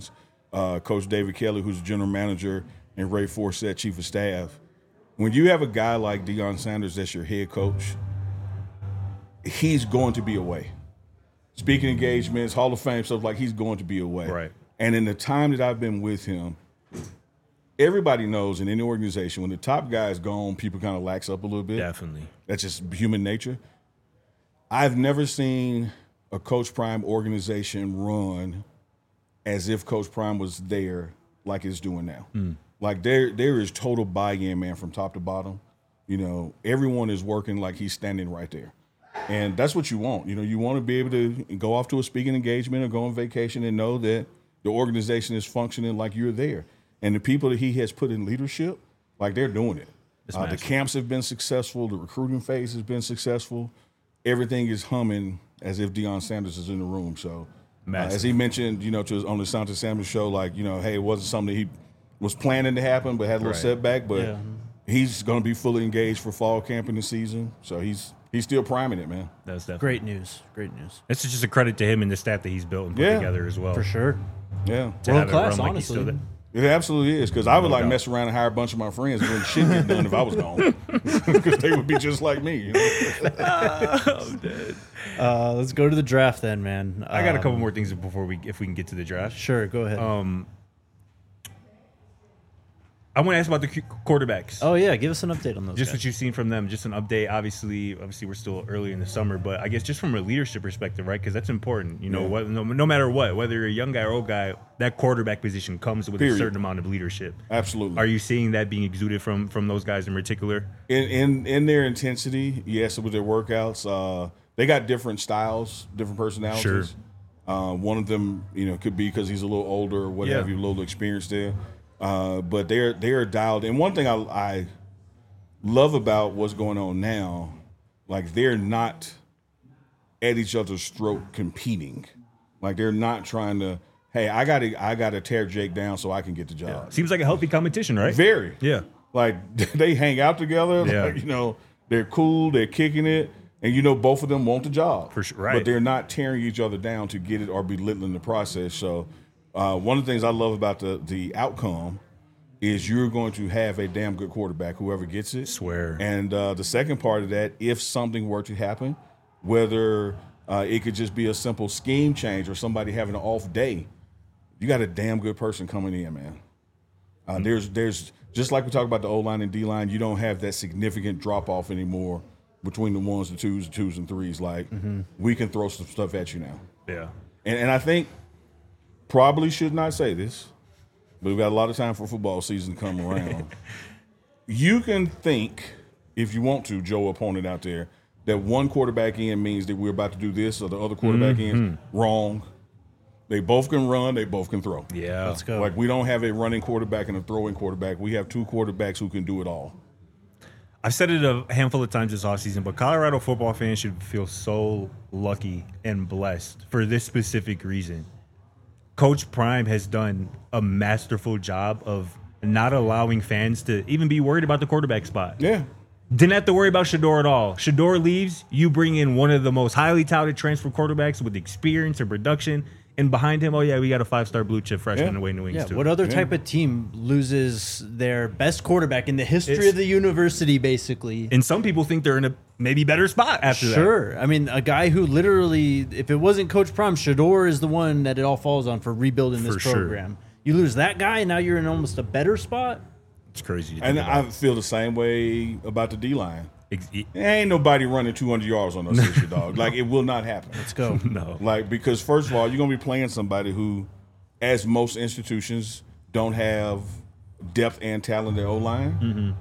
uh, Coach David Kelly, who's the general manager, and Ray Forsett, chief of staff. When you have a guy like Deion Sanders that's your head coach, he's going to be away. Speaking engagements, Hall of Fame stuff, like he's going to be away. Right. And in the time that I've been with him, everybody knows in any organization, when the top guy is gone, people kind of lax up a little bit. Definitely. That's just human nature. I've never seen a Coach Prime organization run as if Coach Prime was there like it's doing now. Mm. Like there, there is total buy-in, man, from top to bottom. You know, everyone is working like he's standing right there. And that's what you want. You know, you want to be able to go off to a speaking engagement or go on vacation and know that the organization is functioning like you're there. And the people that he has put in leadership, like they're doing it. Uh, the camps have been successful. The recruiting phase has been successful. Everything is humming as if Deion Sanders is in the room. So uh, as he mentioned, you know, to his, on the Santa Sanders show, like, you know, hey, it wasn't something that he was planning to happen but had a little Right. setback. But Yeah. he's going to be fully engaged for fall camp in the season. So he's he's still priming it, man. That's definitely Great news. Great news. It's just a credit to him and the staff that he's built and put Yeah. together as well. For sure. Yeah. To World have it class, run like he's honestly. still there. It absolutely is, because I would No like doubt. mess around and hire a bunch of my friends and shit get done if I was gone, because they would be just like me. You know? Uh, let's go to the draft then, man. I got a couple Um, more things before we, if we can get to the draft. Sure, go ahead. Um, I want to ask about the qu- quarterbacks. oh yeah, give us an update on those. Just guys. what you've seen from them, just an update. Obviously, obviously we're still early in the summer, but I guess just from a leadership perspective, right? Because that's important. You know, Yeah. what, no, no matter what, whether you're a young guy or old guy, that quarterback position comes with Period. a certain amount of leadership. Absolutely. Are you seeing that being exuded from from those guys in particular? in, in in their intensity, yes, with their workouts, uh, they got different styles, different personalities. Sure. Uh, one of them, you know, could be because he's a little older or what Yeah. have you, a little experience there. Uh, but they're they're dialed. And one thing I, I love about what's going on now, like they're not at each other's throat competing. Like they're not trying to, hey, I gotta I gotta tear Jake down so I can get the job. Seems like a healthy competition, right? Very. Yeah. Like they hang out together. Yeah. Like, you know, they're cool, they're kicking it, and you know both of them want the job. For sure, right. But they're not tearing each other down to get it or belittling the process. So uh, one of the things I love about the the outcome is you're going to have a damn good quarterback, whoever gets it. Swear. And uh, the second part of that, if something were to happen, whether uh, it could just be a simple scheme change or somebody having an off day, you got a damn good person coming in, man. Uh, Mm-hmm. There's there's just like we talk about the O line and D line, you don't have that significant drop off anymore between the ones, the twos, the twos and threes. Like Mm-hmm. we can throw some stuff at you now, Yeah. and and I think probably should not say this, but we've got a lot of time for football season to come around. You can think, if you want to, Joe, opponent out there, that one quarterback in means that we're about to do this or the other quarterback Mm-hmm. in. Wrong. They both can run. They both can throw. Yeah. Let's go. Like we don't have a running quarterback and a throwing quarterback. We have two quarterbacks who can do it all. I've said it a handful of times this offseason, but Colorado football fans should feel so lucky and blessed for this specific reason. Coach Prime has done a masterful job of not allowing fans to even be worried about the quarterback spot. Yeah. Didn't have to worry about Shador at all. Shador leaves, you bring in one of the most highly touted transfer quarterbacks with experience and production, and behind him, oh yeah, we got a five-star blue chip freshman Yeah. away in the wings Yeah, too. what other Yeah. type of team loses their best quarterback in the history It's- of the university, basically? And some people think they're in a maybe better spot after that. Sure. I mean, a guy who literally, if it wasn't Coach Prime, Shador is the one that it all falls on for rebuilding this For sure. program. You lose that guy, and now you're in almost a better spot. It's crazy. to And think I about. feel the same way about the D line. Ex- e- Ain't nobody running two hundred yards on us this year, dog. Like it will not happen. Let's go. no. Like because first of all, you're gonna be playing somebody who, as most institutions, don't have depth and talent at O line. Mm-hmm.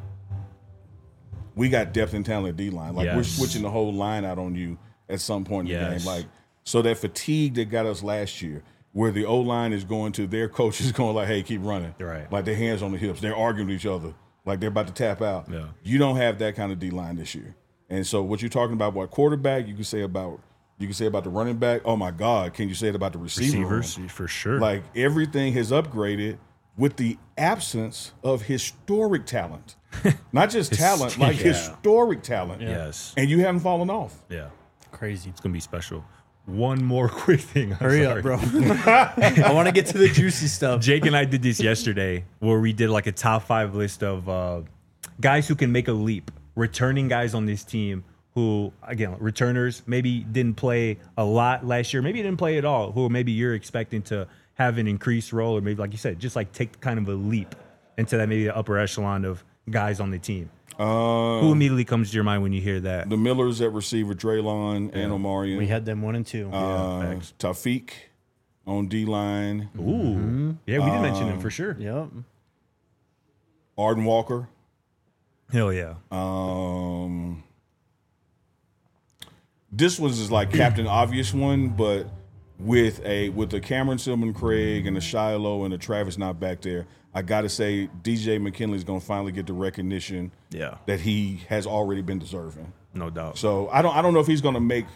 We got depth and talent at D line. Like we're Yes. switching the whole line out on you at some point in the Yes. game. Like so that fatigue that got us last year, where the O line is going to their coach is going like, hey, keep running. Right. Like their hands on the hips. They're arguing with each other. Like they're about to tap out. Yeah. You don't have that kind of D line this year. And so what you're talking about, what quarterback, you can say about you can say about the running back. Oh my God, can you say it about the receiver room? Receivers, for sure. Like everything has upgraded with the absence of historic talent. Not just talent, like yeah. historic talent. Yes. And you haven't fallen off. Yeah. Crazy. It's going to be special. one more quick thing. I'm Hurry sorry. up, bro. I want to get to the juicy stuff. Jake and I did this yesterday where we did like a top five list of uh, guys who can make a leap, returning guys on this team who, again, returners, maybe didn't play a lot last year, maybe didn't play at all, who maybe you're expecting to have an increased role, or maybe, like you said, just like take kind of a leap into that maybe the upper echelon of guys on the team. Uh, Who immediately comes to your mind when you hear that? the Millers at receiver, Draylon and Omarion. We had them one and two. uh, facts. Taufik on D-line. Ooh. Yeah, we did mention him for sure. Yep. Arden Walker. Hell yeah. Um, this was is like Captain Obvious one, but with a with the Cameron Silman Craig and the Shiloh and the Travis not back there, I gotta say D J McKinley's gonna finally get the recognition Yeah. that he has already been deserving. No doubt. So I don't I don't know if he's gonna make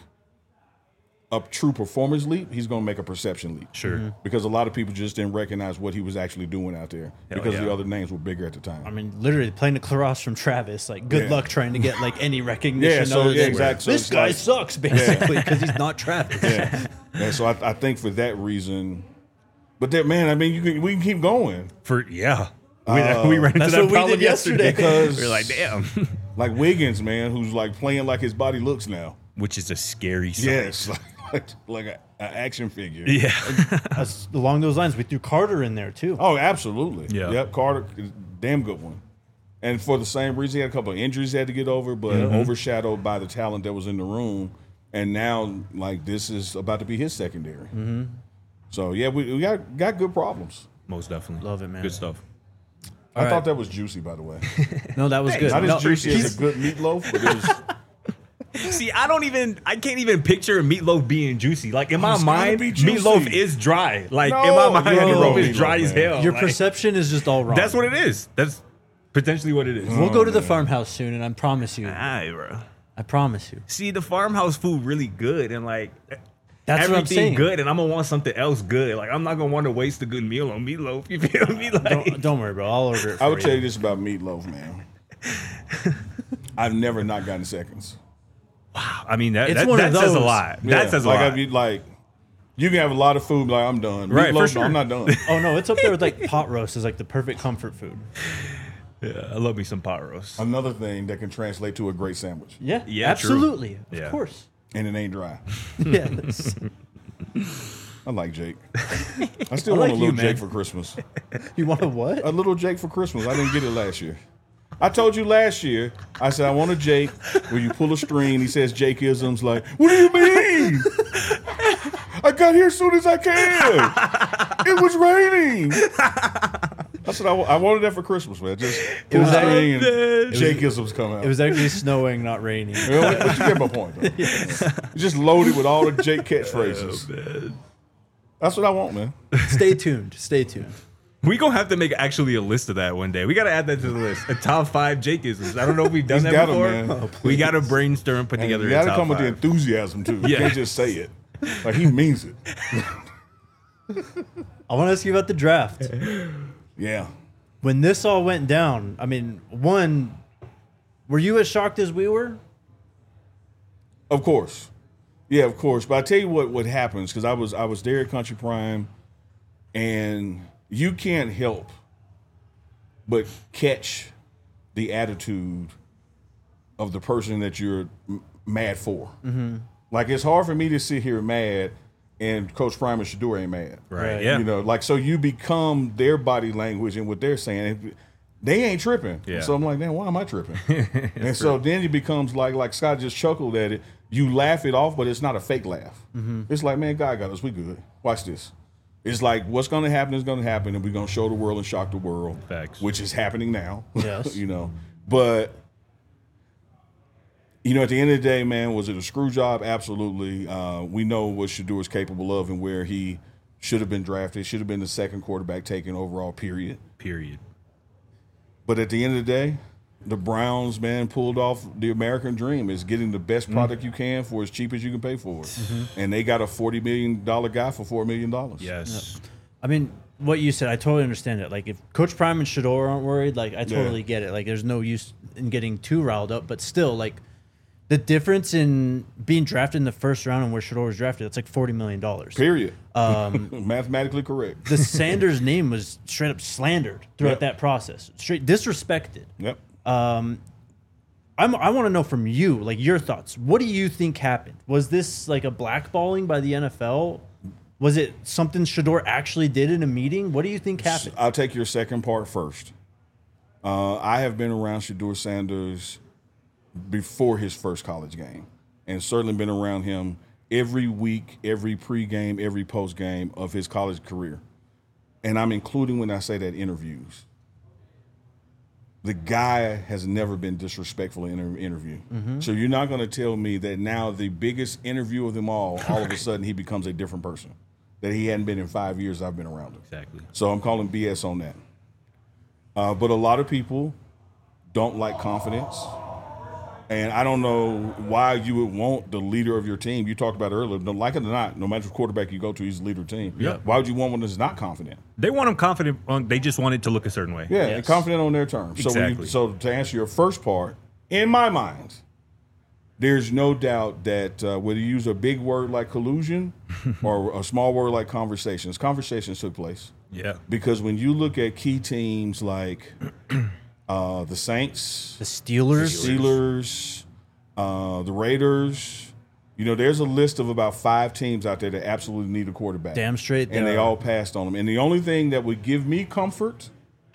a true performance leap. He's gonna make a perception leap. Sure. Because a lot of people just didn't recognize what he was actually doing out there Hell because yeah. the other names were bigger at the time. I mean, literally playing across from Travis. Like, good Yeah. luck trying to get like any recognition. Yeah, so- other yeah, than, exactly. So This it's guy like- sucks, basically, because he's not Travis. Yeah. And so I, I think for that reason, but that man, I mean, you can, we can keep going. For yeah. We, Uh, we ran into that's that what we problem did yesterday. Because- we are like, damn. Like Wiggins, man, who's like playing like his body looks now. Which is a scary sight. Yes, like like, like an action figure. Yeah. That's along those lines. We threw Carter in there too. Oh, absolutely. Yeah. Yep. Carter, damn good one. And for the same reason, he had a couple of injuries he had to get over, but overshadowed by the talent that was in the room. And now, like, this is about to be his secondary. Mm-hmm. So yeah, we, we got got good problems. Most definitely. Love it, man. Good stuff. I All thought right. that was juicy, by the way. No, that was good. Not No, as juicy he's- as a good meatloaf, but it was. See, I don't even, I can't even picture meatloaf being juicy. Like, in my it's gotta mind, be juicy. meatloaf is dry. Like, No, in my mind, bro. meatloaf is Meatloaf, dry as man. hell. Your Like, perception is just all wrong. That's what it is. That's potentially what it is. We'll go to the man. farmhouse soon, and I promise you, Aye, bro. I promise you. See, the farmhouse food really good, and like, That's what I'm everything saying. good, and I'm gonna want something else good. Like, I'm not gonna want to waste a good meal on meatloaf. You feel me? Like, Don't, don't worry, bro. I'll order it for I would you. tell you this about meatloaf, man. I've never not gotten seconds. I mean, that It's that, one that of says a those. lot. Yeah, That says a like lot. I'd be like, you can have a lot of food, like I'm done. Right, for Meatloaf, no, sure. I'm not done. Oh no, it's up there with like pot roast is like the perfect comfort food. Yeah, I love me some pot roast. Another thing that can translate to a great sandwich, Yeah, Yeah, absolutely, true. of Yeah. course. and it ain't dry. Yes. I like Jake. I still I want like a you, little man. Jake for Christmas. You want a what? A little Jake for Christmas. I didn't get it last year. I told you last year. I said I want a Jake where you pull a string. He says Jake-isms. Like, what do you mean? I got here as soon as I can. It was raining. I said I, wa- I wanted that for Christmas, man. Just pull was a string that- and Jake-isms come out. It was actually snowing, not raining. Well, but you get my point. Though. You just loaded with all the Jake catchphrases. That's what I want, man. Stay tuned. Stay tuned. We gonna have to make actually a list of that one day. We gotta add that to the list. A top five Jake-isms. I don't know if we've done He's that got 'em, before. man. Oh, we gotta brainstorm, and put And together you a got to top come with the five. enthusiasm too. You Yeah. can't just say it. Like he means it. I want to ask you about the draft. Yeah. When this all went down, I mean, one, were you as shocked as we were? Of course. Yeah, of course. But I tell you what what happens, because I was I was there at Country Prime, and you can't help but catch the attitude of the person that you're m- mad for. Mm-hmm. Like it's hard for me to sit here mad and Coach Prime and Shador ain't mad. Right. Right. Yeah. You know, like so you become their body language and what they're saying. They ain't tripping. Yeah. So I'm like, man, why am I tripping? And so then it becomes like like Scott just chuckled at it. You laugh it off, but it's not a fake laugh. Mm-hmm. It's like, man, God got us. We good. Watch this. It's like what's going to happen is going to happen, and we're going to show the world and shock the world. Facts. Which is happening now. Yes. You know, but you know, at the end of the day, man, was it a screw job? Absolutely. Uh, we know what Shador is capable of and where he should have been drafted. Should have been the second quarterback taken overall. Period. Period. But at the end of the day, the Browns, man, pulled off the American dream. Is getting the best Mm-hmm. product you can for as cheap as you can pay for it. And they got a forty million dollars guy for four million dollars. Yes. I mean, what you said, I totally understand it. Like, if Coach Prime and Shador aren't worried, like, I totally Yeah. get it. Like, there's no use in getting too riled up, but still, like, The difference in being drafted in the first round and where Shedeur was drafted, that's like forty million dollars. Period. Um, Mathematically correct. The Sanders name was straight up slandered throughout Yep. that process, straight disrespected. Yep. I'm, I want to know from you, like your thoughts. What do you think happened? Was this like a blackballing by the N F L? Was it something Shedeur actually did in a meeting? What do you think happened? I'll take your second part first. Uh, I have been around Shedeur Sanders before his first college game, and certainly been around him every week, every pregame, every postgame of his college career. And I'm including when I say that interviews. The guy has never been disrespectful in an interview. Mm-hmm. So you're not going to tell me that now the biggest interview of them all, all of a sudden he becomes a different person that he hadn't been in five years I've been around him. Exactly. So I'm calling B S on that. Uh, but a lot of people don't like confidence. And I don't know why you would want the leader of your team. You talked about it earlier. Don't like it or not, no matter what quarterback you go to, he's the leader of the team. Yeah. Why would you want one that's not confident? They want him confident. On, they just want it to look a certain way. Yeah, Yes. and confident on their terms. So, when Exactly. you, so to answer your first part, in my mind, there's no doubt that uh, whether you use a big word like collusion or a small word like conversations, conversations took place. Yeah. Because when you look at key teams like uh, the Saints, The Steelers. Steelers, uh, the Raiders, you know, there's a list of about five teams out there that absolutely need a quarterback. Damn straight And they they are. all passed on them. And the only thing that would give me comfort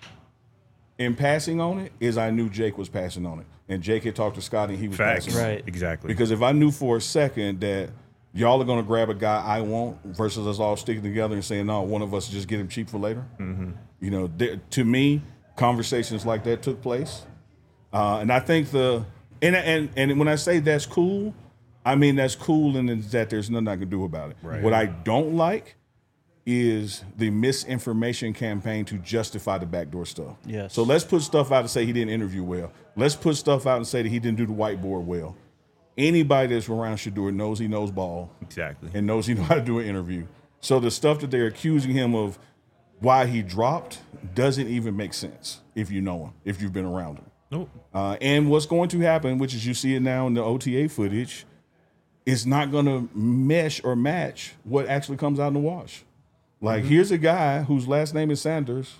in passing on it is I knew Jake was passing on it. And Jake had talked to Scotty and he was Facts. passing on it. Right. Exactly. Because if I knew for a second that y'all are going to grab a guy I want versus us all sticking together and saying, no, one of us just get him cheap for later. Mm-hmm. You know, th- to me, conversations like that took place. Uh, and I think the and, and and when I say that's cool, I mean that's cool and that there's nothing I can do about it. Right. What I don't like is the misinformation campaign to justify the backdoor stuff. Yes. So let's put stuff out and say he didn't interview well. Let's put stuff out and say that he didn't do the whiteboard well. Anybody that's around Shedeur knows he knows ball Exactly. and knows he know how to do an interview. So the stuff that they're accusing him of why he dropped doesn't even make sense if you know him, if you've been around him. Nope. Uh, and what's going to happen, which is you see it now in the O T A footage, is not going to mesh or match what actually comes out in the wash. Like, Mm-hmm. here's a guy whose last name is Sanders,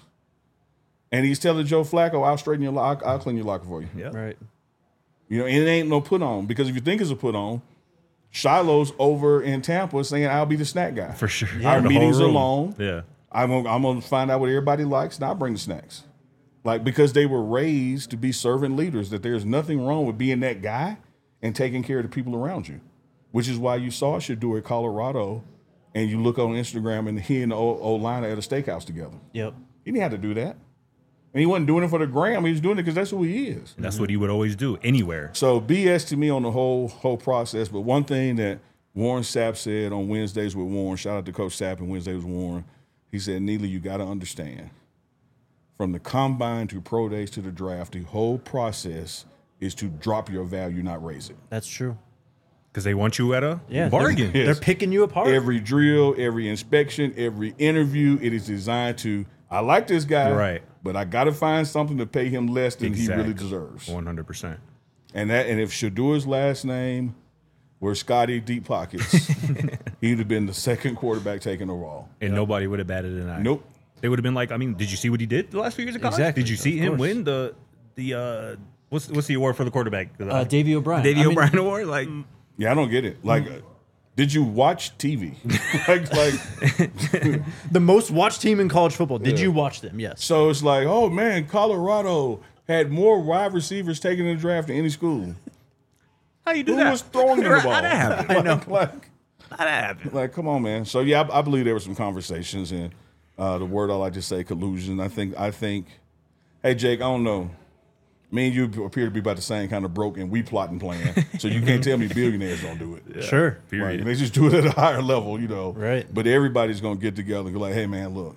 and he's telling Joe Flacco, I'll straighten your lock, I'll clean your locker for you. Yeah. Right. You know, and it ain't no put on, because if you think it's a put on, Shiloh's over in Tampa saying, I'll be the snack guy. For sure. Our The whole meetings room. alone. Yeah. I'm gonna, I'm gonna find out what everybody likes, and I'll bring the snacks. Like, because they were raised to be servant leaders, that there's nothing wrong with being that guy and taking care of the people around you, which is why you saw Shedeur at Colorado, and you look on Instagram and he and the old, old line at a steakhouse together. Yep. He didn't have to do that. And he wasn't doing it for the gram. He was doing it because that's who he is. That's what he would always do anywhere. So B S to me on the whole whole process. But one thing that Warren Sapp said on Wednesdays with Warren, shout out to Coach Sapp and Wednesdays with Warren, he said, Neely, you got to understand, from the combine to pro days to the draft, the whole process is to drop your value, not raise it. That's true. Because they want you at a Yeah. bargain. They're, they're picking you apart. Every drill, every inspection, every interview, it is designed to, I like this guy, Right. but I got to find something to pay him less than he really Exactly. deserves. one hundred percent. And that, and if Shedeur's last name were Scotty Deep Pockets, he'd have been the second quarterback taken overall. And nobody would have batted an eye. Nope. They would have been like, I mean, did you see what he did the last few years of college? Exactly. Did you see Of him course. win the the uh what's what's the award for the quarterback? Uh, Davey O'Brien. Davey I mean- O'Brien award? Like Yeah, I don't get it. Like, uh, did you watch T V? like, like, The most watched team in college football. Did Yeah. you watch them? Yes. so it's like, oh man, Colorado had more wide receivers taken in the draft than any school. how you do Who that? was throwing them the ball? How'd that happen? I know. Like, How'd that happen? like, come on, man. So yeah, I, I believe there were some conversations, and uh, the word I like to say, collusion. I think, I think. Hey, Jake, I don't know. Me and you appear to be about the same kind of broke, and we plot and plan. So you can't tell me billionaires don't do it. Sure. Right? Period. They just do it at a higher level, you know. Right. But everybody's gonna get together and go like, "Hey, man, look,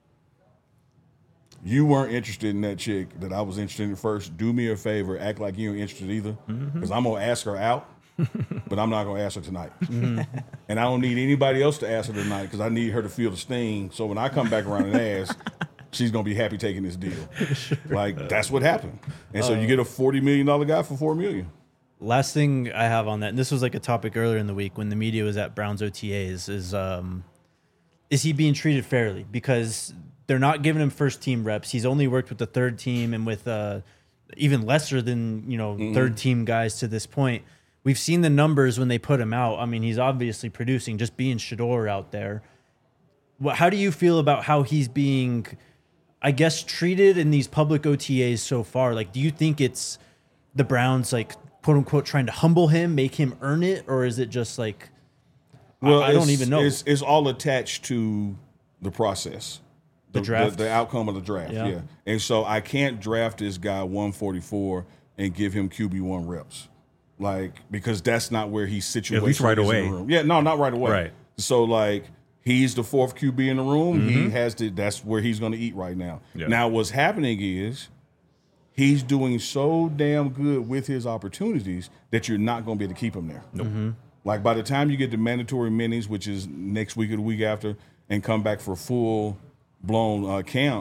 you weren't interested in that chick that I was interested in first. Do me a favor, act like you ain't interested either, because I'm gonna ask her out, but I'm not gonna ask her tonight. And I don't need anybody else to ask her tonight because I need her to feel the sting. So when I come back around and ask, she's gonna be happy taking this deal. Like that's what happened. And so you get a forty million dollar guy for four million. Last thing I have on that, and this was like a topic earlier in the week when the media was at Browns O T As, is um, is he being treated fairly? Because they're not giving him first team reps. He's only worked with the third team and with uh, even lesser than you know mm-hmm. third team guys to this point. We've seen the numbers when they put him out. I mean, he's obviously producing. Just being Shedeur out there. What? How do you feel about how he's being, I guess, treated in these public O T As so far? Like, do you think it's the Browns like, quote unquote, trying to humble him, make him earn it, or is it just like, well, I, I don't even know. It's, it's all attached to the process, the, the draft, the, the outcome of the draft. Yeah. yeah, and so I can't draft this guy one forty-four and give him Q B one reps, like because that's not where he's situated. At least right away. Yeah, no, not right away. Right. So like he's the fourth Q B in the room. Mm-hmm. He has to. That's where he's going to eat right now. Yeah. Now, what's happening is, he's doing so damn good with his opportunities that you're not going to be able to keep him there. Nope. Mm-hmm. Like by the time you get the mandatory minis, which is next week or the week after, and come back for full blown uh, camp,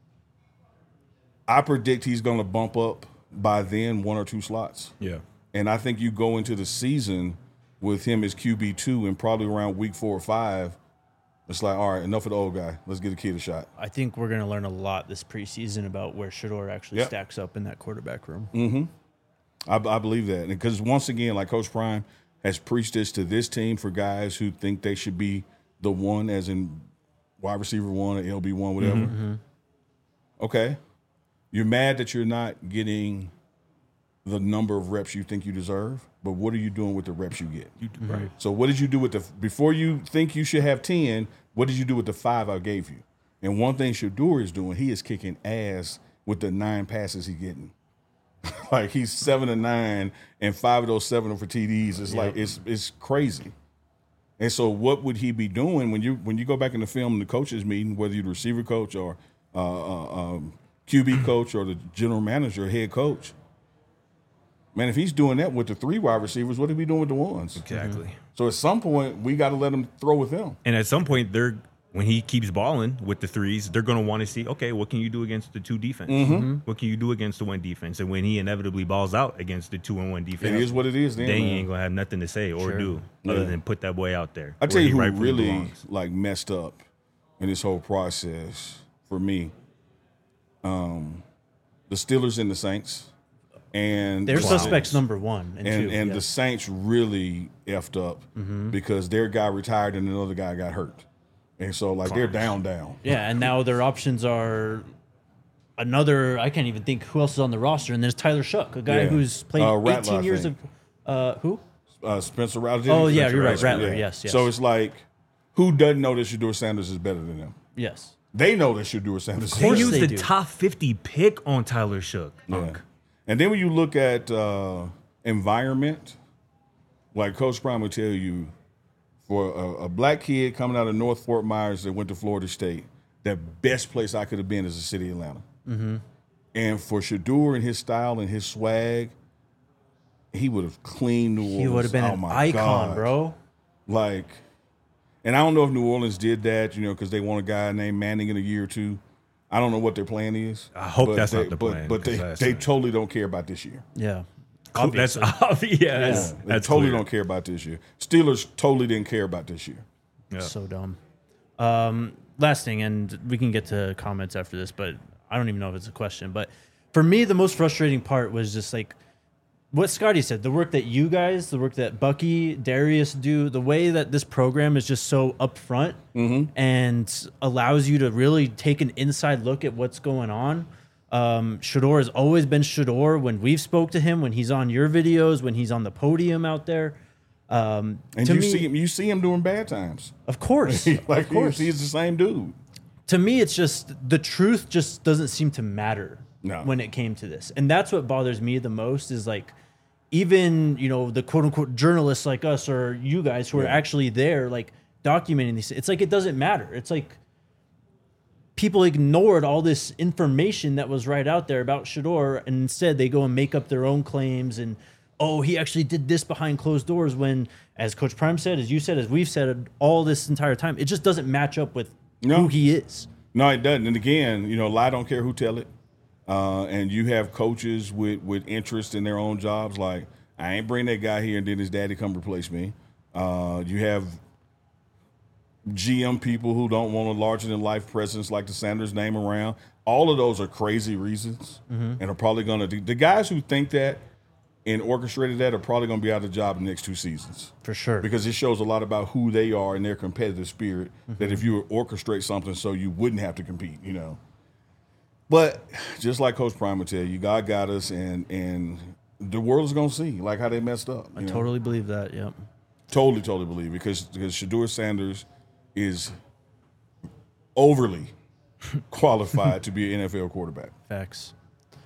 I predict he's going to bump up by then one or two slots. Yeah. And I think you go into the season with him as Q B two and probably around week four or five, it's like, all right, enough of the old guy. Let's get a kid a shot. I think we're going to learn a lot this preseason about where Shedeur actually yep. stacks up in that quarterback room. Mm-hmm. I, I believe that. Because once again, like Coach Prime has preached this to this team for guys who think they should be the one, as in wide receiver one or L B one, whatever. Mm-hmm. Okay. You're mad that you're not getting the number of reps you think you deserve, but what are you doing with the reps you get? You, right. So what did you do with the – before you think you should have ten, what did you do with the five I gave you? And one thing Shedeur is doing, he is kicking ass with the nine passes he's getting. Like he's seven and nine, and five of those seven are for T Ds. It's yep. like it's it's crazy. And so what would he be doing when you when you go back in the film in the coaches meeting, whether you're the receiver coach or uh, uh, um, Q B coach or the general manager or head coach? Man, if he's doing that with the three wide receivers, what are we doing with the ones? Exactly. Mm-hmm. So at some point, we got to let him throw with them. And at some point, they're when he keeps balling with the threes, they're going to want to see, okay, what can you do against the two defense? Mm-hmm. What can you do against the one defense? And when he inevitably balls out against the two and one defense, it is what it is. Then, then man. you ain't going to have nothing to say or sure. do yeah. other than put that boy out there. I tell you who rightfully really belongs. like messed up in this whole process for me, um, the Steelers and the Saints. And they're the suspects Saints. number one and, and two. and yeah. the Saints really effed up mm-hmm. because their guy retired and another guy got hurt, and so like they're down, down. Yeah, and now their options are another. I can't even think who else is on the roster. And there's Tyler Shook, a guy Yeah. who's played Uh, Rattler, eighteen I years think. of uh, who? Uh, Spencer Rattler. Oh yeah, Spencer you're right, Rattler. Rattler. Yeah. Yes, yes. So it's like, who doesn't know that Shedeur Sanders is better than them? Yes. They know that Shedeur Sanders is They better. used they the do. top fifty pick on Tyler Shook. Yeah. And then when you look at uh, environment, like Coach Prime would tell you, for a, a black kid coming out of North Fort Myers that went to Florida State, the best place I could have been is the city of Atlanta. Mm-hmm. And for Shedeur and his style and his swag, he would have cleaned New Orleans. He would have been oh an my icon, God. bro. Like, and I don't know if New Orleans did that, you know, because they want a guy named Manning in a year or two. I don't know what their plan is. I hope but that's they, not the but, plan, But they, 'cause they that's- totally don't care about this year. Yeah. That's Obviously. obvious. Yeah, that's, They that's totally clear. don't care about this year. Steelers totally didn't care about this year. Yeah. So dumb. Um, last thing, and we can get to comments after this, but I don't even know if it's a question. But for me, the most frustrating part was just like what Scotty said, the work that you guys, the work that Bucky, Darius do, the way that this program is just so upfront Mm-hmm. and allows you to really take an inside look at what's going on. Um, Shedeur has always been Shedeur when we've spoke to him, when he's on your videos, when he's on the podium out there. Um, And to you me, see him, you see him during bad times. of course, like of course. He's, he's the same dude. To me, it's just the truth just doesn't seem to matter No. when it came to this. And that's what bothers me the most is like, even, you know, the quote unquote journalists like us or you guys who are Yeah. actually there, like documenting these, it's like, it doesn't matter. It's like people ignored all this information that was right out there about Shedeur. And instead they go and make up their own claims and, oh, he actually did this behind closed doors when, as Coach Prime said, as you said, as we've said all this entire time, it just doesn't match up with No. who he is. No, it doesn't. And again, you know, lie don't care who tell it. Uh, and you have coaches with, with interest in their own jobs. Like, I ain't bring that guy here and then his daddy come replace me. Uh, you have G M people who don't want a larger than life presence like the Sanders name around. All of those are crazy reasons, mm-hmm. and are probably going to do. The guys who think that and orchestrated that are probably going to be out of the job the next two seasons. For sure. Because it shows a lot about who they are and their competitive spirit, mm-hmm. that if you orchestrate something so you wouldn't have to compete, you know. But just like Coach Prime would tell you, God got us, and and the world is going to see, like, how they messed up. I know? totally believe that, yep. Totally, totally believe it, because, because Shedeur Sanders is overly qualified to be an N F L quarterback. Facts.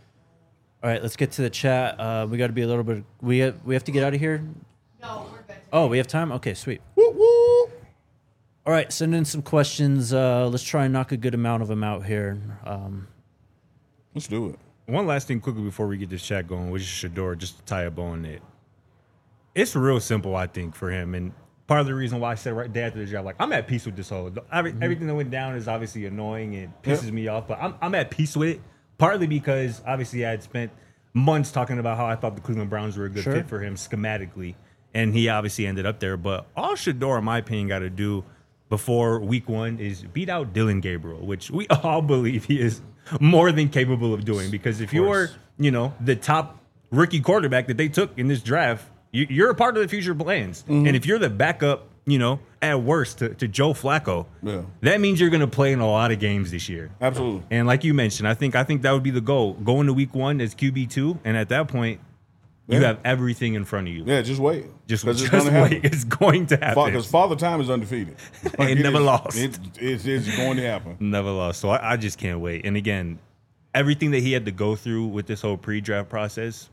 All right, let's get to the chat. Uh, we got to be a little bit. We have, we have to get out of here. No, we're good. Oh, we have time. Okay, sweet. Woo, woo. All right, send in some questions. Uh, let's try and knock a good amount of them out here. Um, Let's do it. One last thing quickly before we get this chat going, which is Shedeur, just to tie a bow on it. It's real simple, I think, for him. And part of the reason why I said right there after the job, like, I'm at peace with this whole. Every, mm-hmm. Everything that went down is obviously annoying and pisses yep. me off, but I'm, I'm at peace with it. Partly because, obviously, I had spent months talking about how I thought the Cleveland Browns were a good sure. fit for him schematically, and he obviously ended up there. But all Shedeur, in my opinion, got to do before week one is beat out Dylan Gabriel, which we all believe he is more than capable of doing. Because if you are, you know, the top rookie quarterback that they took in this draft, you, you're a part of the future plans. Mm-hmm. And if you're the backup, you know, at worst to, to Joe Flacco, yeah. that means you're going to play in a lot of games this year. Absolutely. And like you mentioned, I think I think that would be the goal. Go into week one as Q B two, and at that point, you yeah. have everything in front of you. Yeah, just wait. Just, it's just wait. Happen. It's going to happen. Because Father Time is undefeated. Like it, it never is, lost. It, it is going to happen. Never lost. So I, I just can't wait. And again, everything that he had to go through with this whole pre-draft process,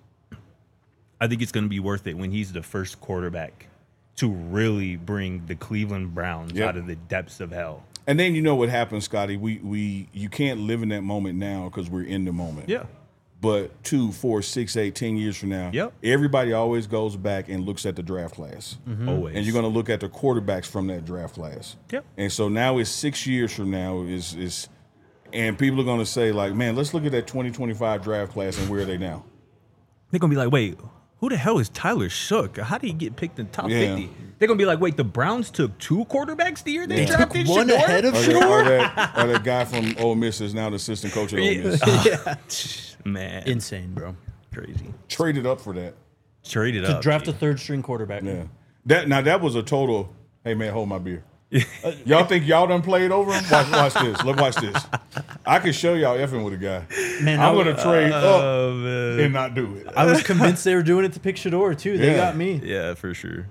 I think it's going to be worth it when he's the first quarterback to really bring the Cleveland Browns yep. out of the depths of hell. And then you know what happens, Scotty. We we you can't live in that moment now because we're in the moment. Yeah. But two, four, six, eight, ten years from now, yep. everybody always goes back and looks at the draft class. Mm-hmm. Always. And you're going to look at the quarterbacks from that draft class. Yep. And so now it's six years from now is is, and people are going to say like, man, let's look at that twenty twenty-five draft class and where are they now? They're going to be like, wait. Who the hell is Tyler Shook? How did he get picked in the top yeah. fifty? They're going to be like, wait, the Browns took two quarterbacks the year they yeah. drafted one Shedeur? ahead of or Shedeur? that, or, that, or that guy from Ole Miss is now the assistant coach at Ole Miss. yeah. Man. Insane, bro. Crazy. Traded up for that. Traded to up. draft dude. a third string quarterback. Yeah. That Now, that was a total, hey, man, hold my beer. uh, y'all think y'all done played over him? Watch, watch this. Let's watch this. I can show y'all effing with a guy. Man, I'm I, going to trade uh, up man. and not do it. I was convinced they were doing it to pick Shedeur, too. They Yeah. got me. Yeah, for sure.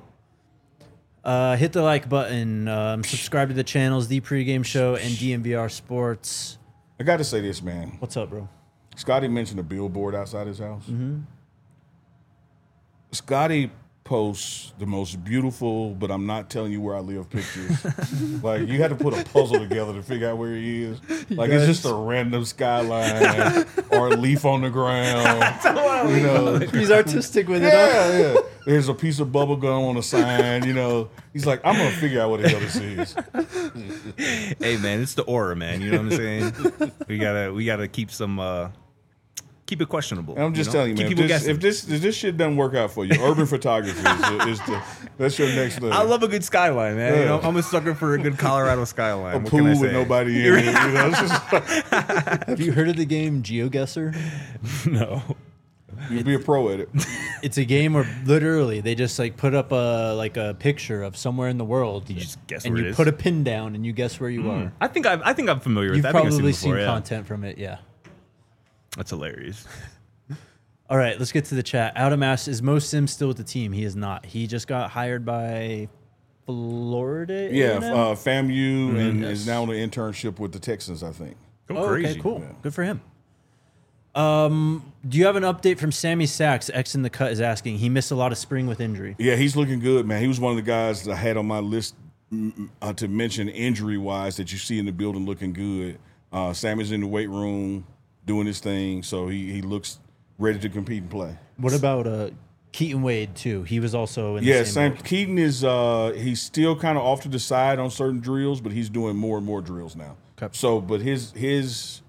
Uh, hit the like button. Um, subscribe to the channels, The Pregame Show and D M V R Sports. I got to say this, man. What's up, bro? Scotty mentioned a billboard outside his house. Mm-hmm. Scotty posts the most beautiful, but I'm not telling you where I live pictures. Like, you had to put a puzzle together to figure out where he is. Like, Yes. it's just a random skyline or a leaf on the ground. You know, He's artistic with it. Huh? yeah, yeah. There's a piece of bubble gum on the sign. You know, he's like, I'm gonna figure out what the hell this is. Hey, man, it's the aura, man. You know what I'm saying? we gotta, we gotta keep some, uh, keep it questionable. And I'm just you know? telling you, man. Keep If people this, guessing. if this if this shit doesn't work out for you, urban photography is, is the that's your next level. I love a good skyline, man. Yeah. You know, I'm a sucker for a good Colorado skyline. a What pool can I with say? nobody in it. You know, it's just like, Have you heard of the game GeoGuessr? No. you'd be a pro at it. It's a game where literally they just like put up a like a picture of somewhere in the world. You just guess and where you it is. put a pin down and you guess where you are. I think I've, I think I'm familiar with You've that. I think I've probably seen, seen it before, yeah. content from it, yeah. That's hilarious. All right, let's get to the chat. Adam asks, is Mo Sims still with the team? He is not. He just got hired by Florida. Yeah, A and M? uh, FAMU and Yes. is now on an internship with the Texans, I think. Go Oh, crazy. okay, cool. Yeah. Good for him. Um, do you have an update from Sammy Sachs? X in the cut is asking. He missed a lot of spring with injury. Yeah, he's looking good, man. He was one of the guys that I had on my list mm, uh, to mention injury-wise that you see in the building looking good. Uh, Sammy's in the weight room doing his thing, so he, he looks ready to compete and play. What about uh, Keaton Wade, too? He was also in Yeah, the same Sam Keaton is uh, he's still kind of off to the side on certain drills, but he's doing more and more drills now. Okay. So, but his his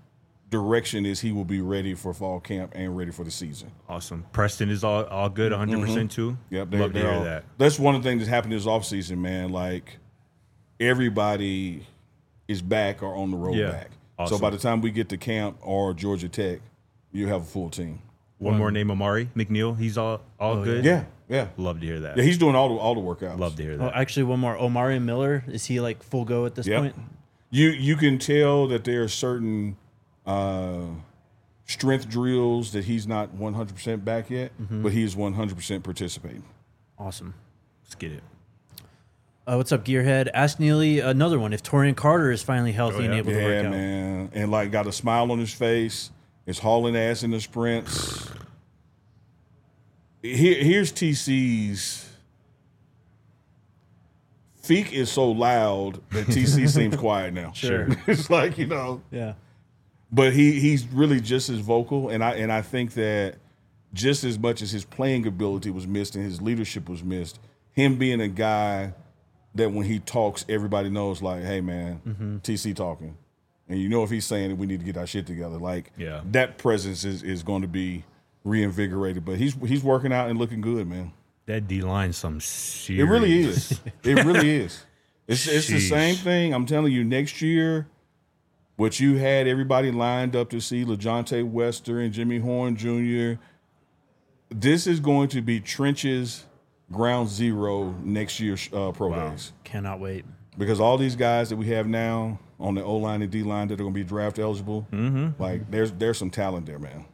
direction is he will be ready for fall camp and ready for the season. Awesome. Preston is all, all good, one hundred percent Mm-hmm. too. Yep, Love to hear all, that. That's one of the things that's happened this offseason, man. Like everybody is back or on the road Yeah. back. Awesome. So by the time we get to camp or Georgia Tech, you have a full team. One more name, Amari McNeil. He's all all good. Yeah, yeah, Love to hear that. yeah. He's doing all the all the workouts. Love to hear Oh, that. actually, one more. Omari Miller, is he like full go at this Yep. point? You you can tell that there are certain uh, strength drills that he's not one hundred percent back yet, Mm-hmm. but he is one hundred percent participating. Awesome. Let's get it. Uh, what's up, Gearhead? Ask Neely another one. If Torian Carter is finally healthy Oh, and yeah. able to work Yeah, out. man, and like got a smile on his face, is hauling ass in the sprints. Here, here's T C's. Feek is so loud that T C seems quiet now. Sure. It's like, you know, Yeah. but he he's really just as vocal, and I and I think that just as much as his playing ability was missed and his leadership was missed, him being a guy that when he talks, everybody knows, like, hey man, Mm-hmm. T C talking, and you know if he's saying that we need to get our shit together, like Yeah. that presence is is going to be reinvigorated. But he's he's working out and looking good, man. That D line, some serious. It really is. It really is. It's it's the Sheesh. same thing. I'm telling you, next year, what you had everybody lined up to see, LaJohntay Wester and Jimmy Horn Junior, this is going to be trenches, ground zero next year's uh, pro days. Cannot wait. Because all these guys that we have now on the O line and D line that are going to be draft eligible, like there's there's some talent there, man.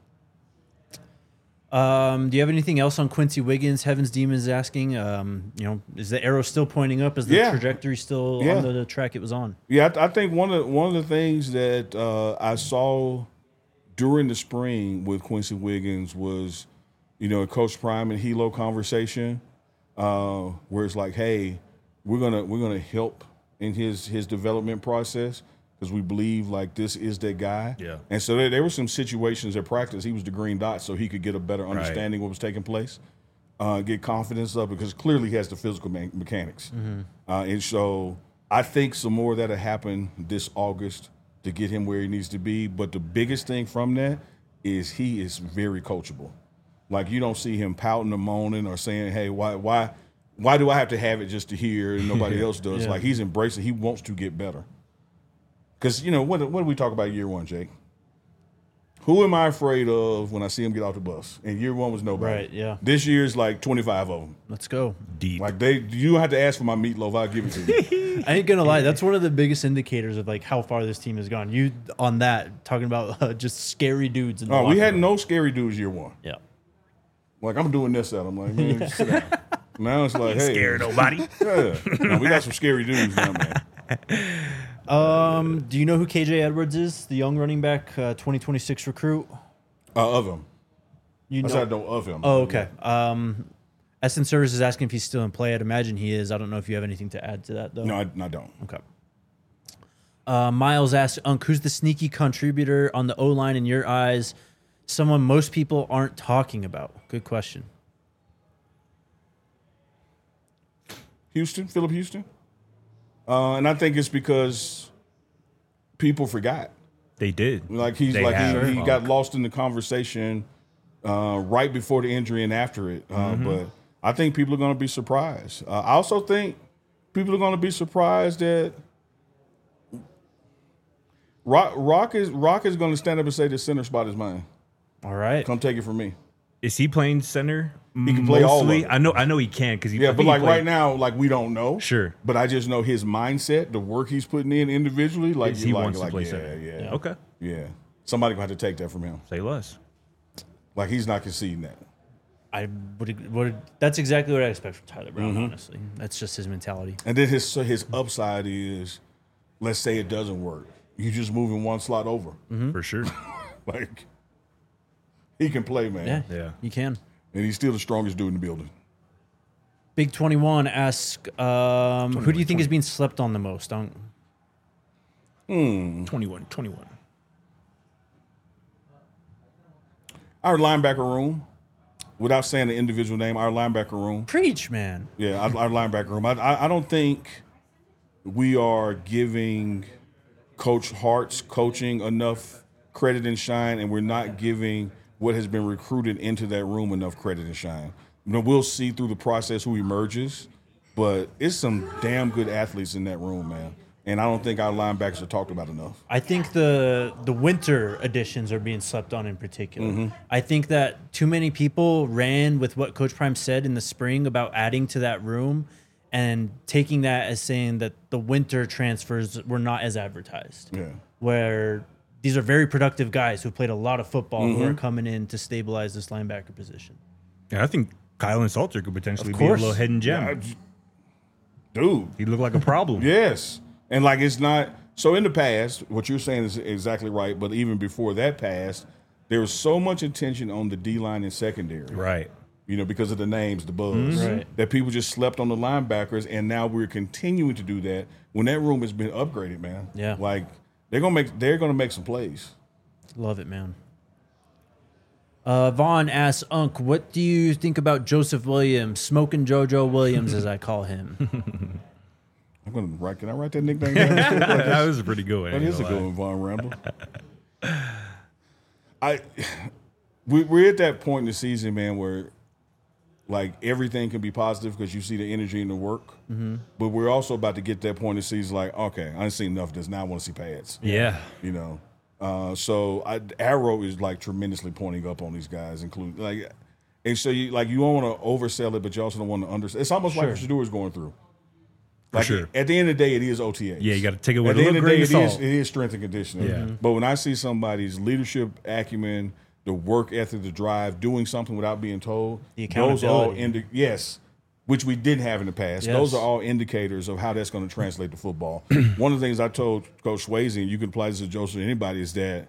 Um, do you have anything else on Quincy Wiggins? Heaven's Demons asking. Um, you know, is the arrow still pointing up? Is the Yeah. trajectory still Yeah. on the, the track it was on? Yeah, I, I think one of one of the things that uh, I saw during the spring with Quincy Wiggins was, you know, Coach Prime and Hilo conversation, uh, where it's like, hey, we're gonna we're gonna help in his his development process because we believe like this is that guy. Yeah. And so there, there were some situations at practice. He was the green dot, so he could get a better understanding what was taking place. Uh, get confidence up because clearly he has the physical me- mechanics. Uh, and so I think some more of that'll happen this August to get him where he needs to be. But the biggest thing from that is he is very coachable. Like you don't see him pouting or moaning or saying, "Hey, why, why, why do I have to have it just to hear and nobody else does?" Yeah. Like he's embracing. He wants to get better. Because you know what? What do we talk about year one, Jake? Who am I afraid of when I see him get off the bus? And year one was nobody. Right, yeah. This year's like twenty-five of them. Let's go. Deep. Like they, you don't have to ask for my meatloaf. I'll give it to you. I ain't gonna lie. That's one of the biggest indicators of like how far this team has gone. You on that talking about uh, just scary dudes. In the Oh, we locker had room. no scary dudes year one. Yeah. Like I'm doing this at them. Like man, sit down. Now it's like, hey, Scared nobody. yeah. No, we got some scary dudes now, man. Um. Do you know who K J Edwards is? The young running back, uh, twenty twenty-six recruit. Uh, of him. You I know. said I know of him. Oh, okay. Um, Essence Service is asking if he's still in play. I'd imagine he is. I don't know if you have anything to add to that though. No, I, I don't. Okay. Uh, Miles asked, Unc, who's the sneaky contributor on the O line in your eyes? Someone most people aren't talking about. Good question. Houston, Philip Houston. Uh, and I think it's because people forgot. They did. Like he's They like have, he, he Unc. got lost in the conversation uh, right before the injury and after it. Uh, Mm-hmm. But I think people are going to be surprised. Uh, I also think people are going to be surprised that Rock, Rock is Rock is going to stand up and say the center spot is mine. All right. Come take it from me. Is he playing center? He can play all of it. I know. I know he can because Yeah, but like right now, like we don't know. Sure. But I just know his mindset, the work he's putting in individually. Like He you're like, wants to like, play yeah, center. yeah, Okay. yeah. Somebody gonna have to take that from him. Say less. Like he's not conceding that. I would, would. That's exactly what I expect from Tyler Brown. Mm-hmm. Honestly, that's just his mentality. And then his so his upside is, let's say it doesn't work, you just moving one slot over. For sure. Like he can play, man. Yeah, Yeah. you can. And he's still the strongest dude in the building. Big twenty-one asks, um, who do you think is being slept on the most? Unc? twenty-one. twenty-one. Our linebacker room, without saying the individual name, our linebacker room. Preach, man. Yeah, our, our linebacker room. I, I I don't think we are giving Coach Hart's coaching enough credit and shine, and we're not giving what has been recruited into that room enough credit and shine. You know, we'll see through the process who emerges, but it's some damn good athletes in that room, man. And I don't think our linebackers are talked about enough. I think the the winter additions are being slept on in particular. Mm-hmm. I think that too many people ran with what Coach Prime said in the spring about adding to that room and taking that as saying that the winter transfers were not as advertised. Yeah. Where these are very productive guys who played a lot of football Mm-hmm. who are coming in to stabilize this linebacker position. Yeah, I think Kylan Salter could potentially Of be a course. little hidden gem. Yeah, j- dude. He looked like a problem. Yes. And like it's not so in the past, what you're saying is exactly right, but even before that passed, there was so much attention on the D line and secondary. Right. You know, because of the names, the buzz. Right. That people just slept on the linebackers, and now we're continuing to do that when that room has been upgraded, man. Yeah. Like they're gonna make they're gonna make some plays. Love it, man. Uh, Vaughn asks, Unc, what do you think about Joseph Williams, Smoking JoJo Williams, as I call him? I'm gonna write can I write that nickname down? That was a pretty good one. That I ain't is a gonna good lie. one, Von Ramble. I we, we're at that point in the season, man, where like everything can be positive because you see the energy and the work. Mm-hmm. But we're also about to get to that point in the season, like, okay, I didn't see enough of this. Now I want to see pads. Yeah. You know, uh, so I, Arrow is like tremendously pointing up on these guys, including like, and so you like you don't want to oversell it, but you also don't want to undersell. It's almost like what Shador is going through. Like sure. at the end of the day, it is O T As. Yeah, you got to take it At with a the end little of the day, grain it of is, salt. it is strength and conditioning. Yeah. Mhm. But when I see somebody's leadership acumen, the work ethic, the drive, doing something without being told, The those are all accountability. indi- yes, which we didn't have in the past. Yes. Those are all indicators of how that's going to translate to football. One of the things I told Coach Swayze, and you can apply this to Joseph or anybody, is that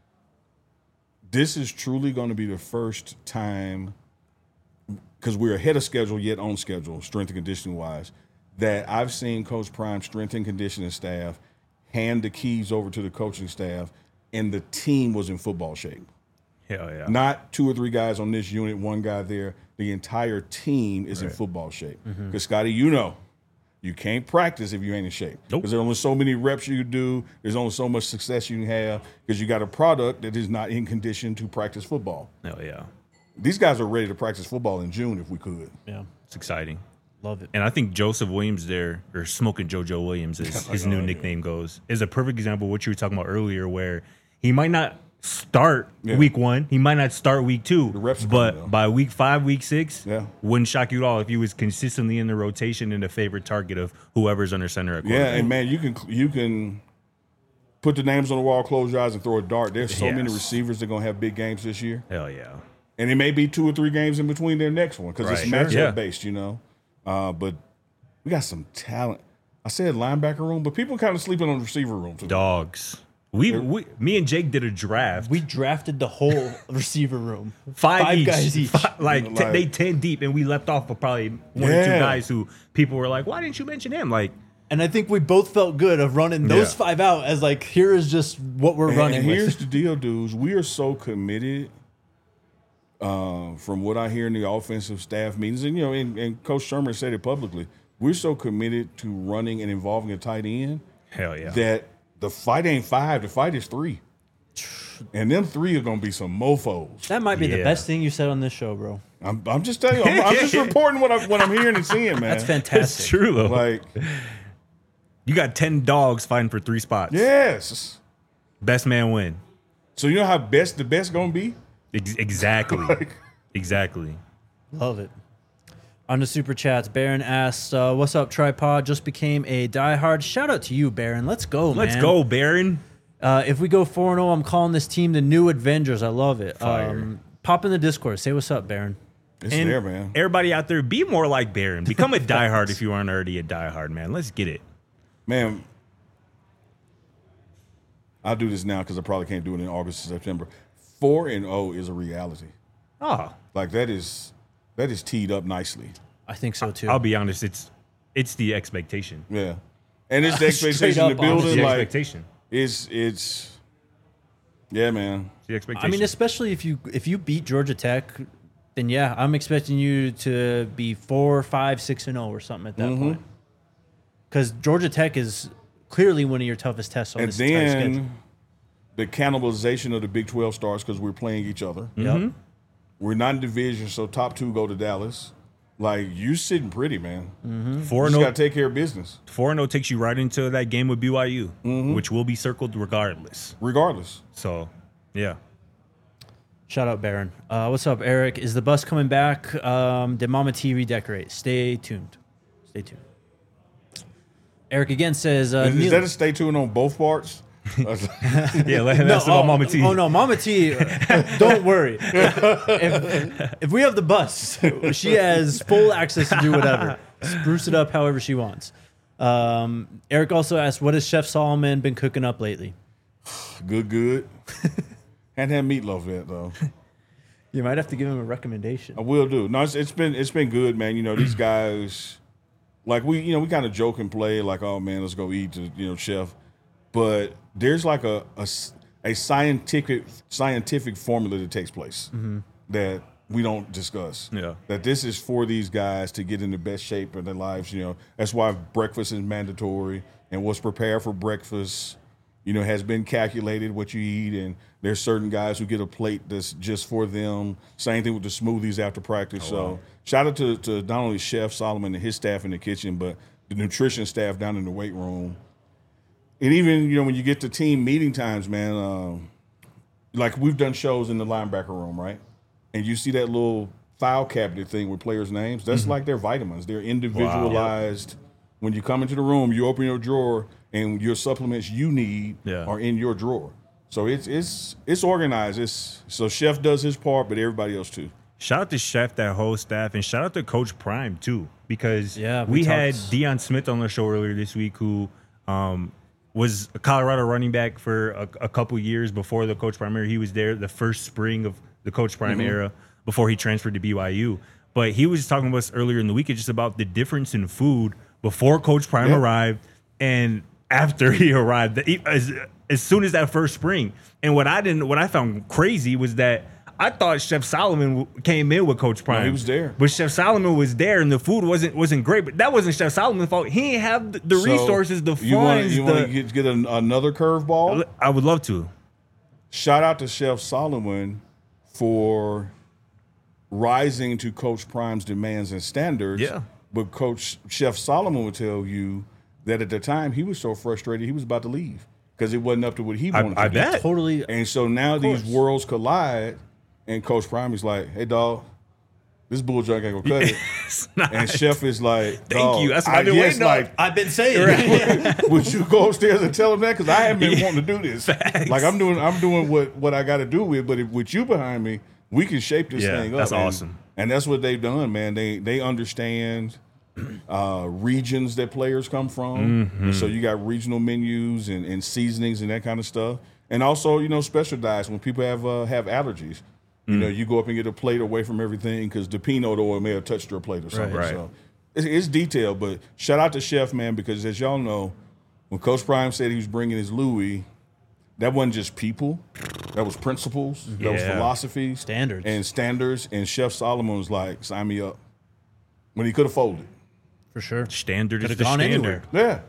this is truly going to be the first time, because we're ahead of schedule yet on schedule, strength and conditioning wise, that I've seen Coach Prime strength and conditioning staff hand the keys over to the coaching staff, and the team was in football shape. Hell yeah. Not two or three guys on this unit, one guy there. The entire team is in football shape. Because, Scotty, you know, you can't practice if you ain't in shape. Nope. Because there's only so many reps you can do. There's only so much success you can have because you got a product that is not in condition to practice football. Hell yeah. These guys are ready to practice football in June if we could. Yeah, It's exciting. love it. And I think Joseph Williams there, or Smoking JoJo Williams, as his new nickname goes, is a perfect example of what you were talking about earlier, where he might not start Yeah. week one, he might not start week two, reps are but coming, though. by week five, week six, Yeah. wouldn't shock you at all if he was consistently in the rotation and a favorite target of whoever's under center at Yeah, quarterback. and man, you can you can put the names on the wall, close your eyes, and throw a dart. There's so many Yes. receivers that are gonna have big games this year, Hell yeah. and it may be two or three games in between their next one because it's Right. matchup Sure. Yeah. based, you know. Uh, but we got some talent. I said linebacker room, but people kind of sleeping on the receiver room too. Dogs. We, we, me and Jake did a draft. We drafted the whole receiver room. Five, each. guys each. Fi- like, You know, t- like- they ten deep, and we left off with probably one or two Yeah. guys who people were like, "Why didn't you mention him?" Like, And I think we both felt good of running those Yeah. five out as like, here is just what we're And, running and here's with. the deal, dudes. We are so committed. Uh, from what I hear in the offensive staff meetings, and you know, and, and Coach Sherman said it publicly, we're so committed to running and involving a tight end hell yeah. that the fight ain't five, the fight is three. And them three are gonna be some mofos. That might be the Yeah. best thing you said on this show, bro. I'm, I'm just telling you, I'm, I'm just reporting what I'm what I'm hearing and seeing, man. That's It's fantastic. true though. Like, You got ten dogs fighting for three spots. yes. Best man win. So you know how best the best gonna be? Ex- exactly. exactly. Love it. On the super chats, Baron asks, uh, "What's up, Tripod? Just became a diehard. Shout out to you, Baron. Let's go, man. Let's go, Baron. Uh, if we go four and zero, I'm calling this team the New Avengers. I love it. Fire. Um, pop in the Discord. Say what's up, Baron. It's And there, man. everybody out there, be more like Baron. Become a diehard if you aren't already a diehard, man. Let's get it. Man, I'll do this now because I probably can't do it in August or September. Four and zero is a reality. Oh, Like that is that is teed up nicely. I think so too. I'll be honest. It's it's the expectation. Yeah, and it's the Straight expectation in the up building. honest. It's the Like expectation. it's it's yeah, man. It's the expectation. I mean, especially if you if you beat Georgia Tech, then yeah, I'm expecting you to be four, five, six and zero or something at that Mm-hmm. point. Because Georgia Tech is clearly one of your toughest tests on And this entire schedule. then the cannibalization of the Big twelve starts because we're playing each other. Yep. We're not in division, so top two go to Dallas. Like, you sitting pretty, man. Mm-hmm. Four You and just zero. got to take care of business, Four and zero takes you right into that game with B Y U, Mm-hmm. which will be circled regardless. regardless. So, yeah. Shout out Baron. Uh, what's up, Eric? Is the bus coming back? Um, did Mama T redecorate? Stay tuned. Stay tuned. Eric again says, uh, Is, is Neil- that a stay tuned on both parts? Yeah, let him no, ask about oh, Mama T. Oh no, Mama T, uh, don't worry. if, if we have the bus, she has full access to do whatever. Spruce it up however she wants. Um, Eric also asked, what has Chef Solomon been cooking up lately? Good, good. Hadn't had meatloaf yet, though. You might have to give him a recommendation. I will do. No, it's, it's been it's been good, man. You know, these guys, like we, you know, we kind of joke and play, like, oh man, let's go eat to, you know, chef. But there's like a a, s- a scientific scientific formula that takes place that we don't discuss. Yeah. That this is for these guys to get in the best shape of their lives. You know, that's why breakfast is mandatory, and what's prepared for breakfast, you know, has been calculated what you eat. And there's certain guys who get a plate that's just for them. Same thing with the smoothies after practice. so wow. shout out to, to not only Chef Solomon and his staff in the kitchen, but the nutrition staff down in the weight room. And even, you know, when you get to team meeting times, man, um, like we've done shows in the linebacker room, right? And you see that little file cabinet thing with players' names. That's like their vitamins. They're individualized. When you come into the room, you open your drawer, and your supplements you need Yeah. are in your drawer. So it's it's it's organized. It's so Chef does his part, but everybody else too. Shout out to Chef, that whole staff, and shout out to Coach Prime too, because Yeah, we, we had talked- Deion Smith on the show earlier this week, who um, was a Colorado running back for a, a couple years before the Coach Prime era. He was there the first spring of the Coach Prime era before he transferred to B Y U. But he was talking to us earlier in the week just about the difference in food before Coach Prime Yeah. arrived and after he arrived. The- As, as soon as that first spring. And what I didn't, what I found crazy was that I thought Chef Solomon w- came in with Coach Prime. he was there. But Chef Solomon was there, and the food wasn't wasn't great. But that wasn't Chef Solomon's fault. He didn't have the, the So resources, the you wanna- funds. You want the, to get, get an, another curveball? I would love to. Shout out to Chef Solomon for rising to Coach Prime's demands and standards. Yeah. But Coach Chef Solomon would tell you that at the time he was so frustrated he was about to leave because it wasn't up to what he I, wanted I to do. bet. Totally. And so now these course. worlds collide, and Coach Prime is like, "Hey, dog, this bull junk ain't gonna cut it." It's not- And Chef is like, Thank "Dog, you. That's what I I've been guess, waiting on." like, I've been saying. would you go upstairs and tell him that? Because I haven't been Yeah. wanting to do this. Facts. Like I'm doing, I'm doing what what I got to do with. But if, with you behind me, we can shape this Yeah, thing up. that's and- awesome. And that's what they've done, man. They they understand uh, regions that players come from. Mm-hmm. And so you got regional menus and, and seasonings and that kind of stuff. And also, you know, special diets when people have uh, have allergies. You Mm. know, you go up and get a plate away from everything because the peanut oil may have touched your plate or something. Right. So it's, it's detailed, but shout out to Chef, man, because as y'all know, when Coach Prime said he was bringing his Louis, that wasn't just people. That was principles. That was Yeah. philosophies. Standards. And standards. And Chef Solomon was like, sign me up. When he could have folded. For sure. Standard is Could've the gone standard. anywhere. Yeah.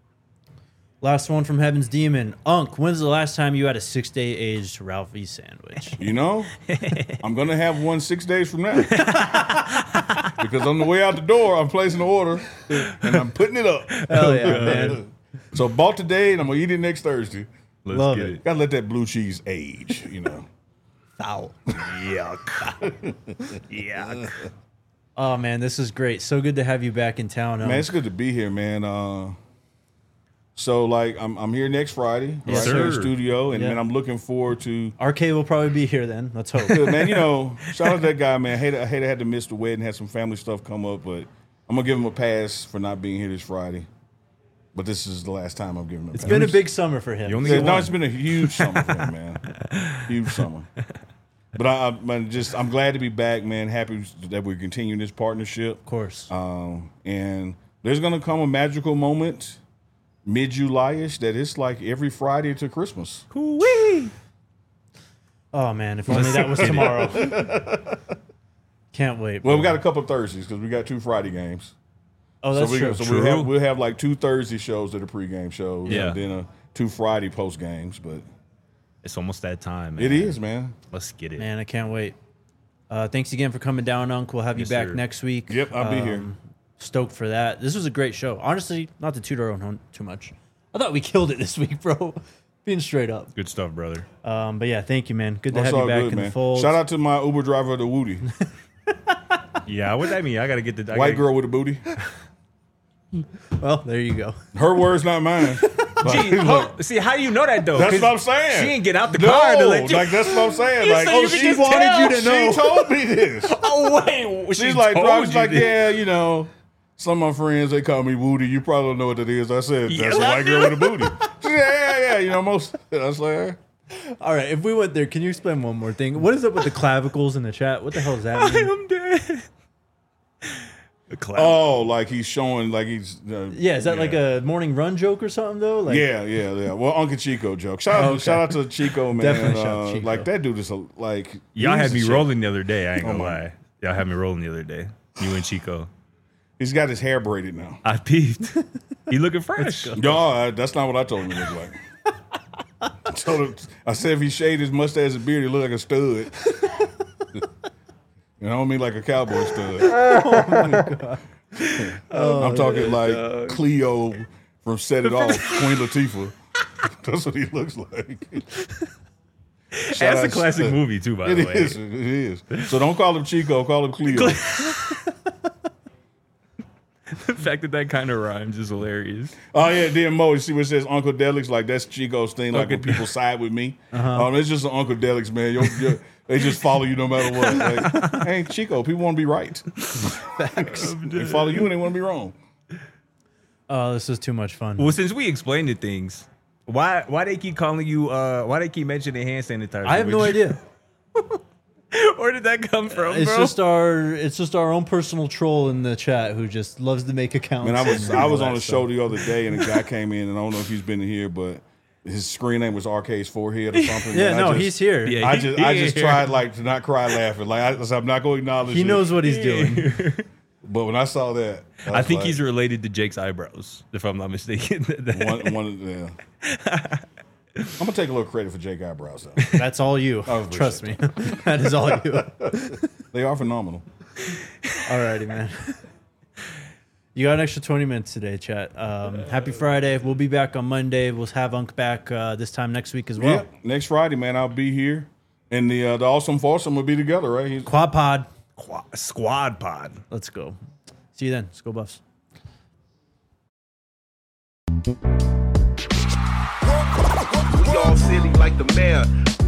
Last one from Heaven's Demon. Unk, when's the last time you had a six-day aged Ralphie sandwich? You know, I'm going to have one six days from now. Because on the way out the door, I'm placing the order and I'm putting it up. Hell yeah, man. So bought today and I'm going to eat it next Thursday. Let's Love get it. it. Got to let that blue cheese age, you know. Foul. Yuck. Yuck. Oh, man, this is great. So good to have you back in town. Unk. Man, it's good to be here, man. Uh, so, like, I'm I'm here next Friday, Yes, right here in the sir. studio, and Yeah. man, I'm looking forward to. R K will probably be here then. Let's hope. Good, man, you know, shout out to that guy, man. I hate I hate I had to miss the wedding, had some family stuff come up, but I'm gonna give him a pass for not being here this Friday. But this is the last time I'm giving him. A It's pass. been a big summer for him. You only Yeah, get no, one. it's been a huge summer for him, man. Huge summer. But I, I man, just I'm glad to be back, man. Happy that we're continuing this partnership. Of course. Um, and there's gonna come a magical moment mid-July-ish that it's like every Friday to Christmas. Wee. Oh, man, if only that was tomorrow. Can't wait. Well, we bro. got a couple of Thursdays because we got two Friday games. Oh, that's so we, true. So True. we'll have we'll have like two Thursday shows that are pregame shows, Yeah. and then a, two Friday post games. But It's almost that time, man. It is, man. Let's get it. Man, I can't wait. Uh, thanks again for coming down, Unc. We'll have Yes, you back sir. next week. Yep, I'll be here. Stoked for that. This was a great show. Honestly, not to toot our own horn too much. I thought we killed it this week, bro. Being straight up. Good stuff, brother. Um, but yeah, thank you, man. Good to That's have you all back good, in man. the fold. Shout out to my Uber driver, the Woody. Yeah, what that mean? I gotta get the I White gotta, girl with a booty. Well, there you go. Her words, not mine. Gee, oh, see, how do you know that though? That's 'Cause what I'm saying. She ain't get out the No, car to let you. like that's what I'm saying. You Like, said oh, you could she just wanted tell. you to know. She told me this. Oh wait, She's she like, told bro, she's you like, this. yeah, you know, some of my friends they call me Woody. You probably don't know what that is. I said, Yeah, that's a I white girl with a booty. She said, yeah, yeah, yeah. You know, most. I was like, All right, if we went there, can you explain one more thing? What is up with the clavicles in the chat? What the hell does that mean? I'm dead. The cloud. oh, like he's showing, like he's. Uh, Yeah, is that like a morning run joke or something though? Like, Yeah, yeah, yeah. Well, Uncle Chico joke. Shout out, Oh, okay. shout out to Chico, man. Definitely shout out Uh, Chico. Like that dude is a, like. Y'all he's had a me shit. rolling the other day. I ain't gonna Oh, my. lie. Y'all had me rolling the other day. You and Chico. He's got his hair braided now. I peeped. He looking fresh. No, I, that's not what I told him he looked like. I told him, I said if he shaved his mustache and beard, he looked like a stud. And I don't mean like a cowboy stud. Oh my god. I'm talking like Cleo from Set It Off, Queen Latifah. That's what he looks like. Shout That's a out- classic movie too, by It the way. is. It is. So don't call him Chico. Call him Cleo. The fact that that kind of rhymes is hilarious. Oh yeah, then Mo, you see what it says Uncle Delix? Like that's Chico's thing. Like when Uncle people side with me, um, it's just an Uncle Delix, man. You're, you're, they just follow you no matter what. Like, hey, Chico, people want to be right. They follow you and they want to be wrong. Oh, this is too much fun. Well, since we explained the things, why why they keep calling you? Uh, why they keep mentioning hand sanitizer? I have no Would you- idea. Where did that come from, It's bro? just our it's just our own personal troll in the chat who just loves to make accounts. Man, I was and I all was that on a stuff. show the other day and a guy came in and I don't know if he's been here, but his screen name was Arcade's forehead or something. Yeah, and no, I just, he's here. Yeah, I he- just he I ain't just here. tried like to not cry laughing. Like I, so I'm not going to acknowledge. He it. knows what he's doing. But when I saw that, I, I was think like, he's related to Jake's eyebrows, if I'm not mistaken. one one. Yeah. I'm gonna take a little credit for Jake eyebrows though. That's all you. I appreciate Trust me. That is all you. They are phenomenal. Alrighty, man. You got an extra twenty minutes today, chat. Um, happy Friday. We'll be back on Monday. We'll have Unc back uh, this time next week as well. Yep. Next Friday, man, I'll be here, and the uh, the awesome foursome will be together, right? He's, Quad pod. Qu- Squad pod. Let's go. See you then. Let's go Buffs. We all silly like the mayor.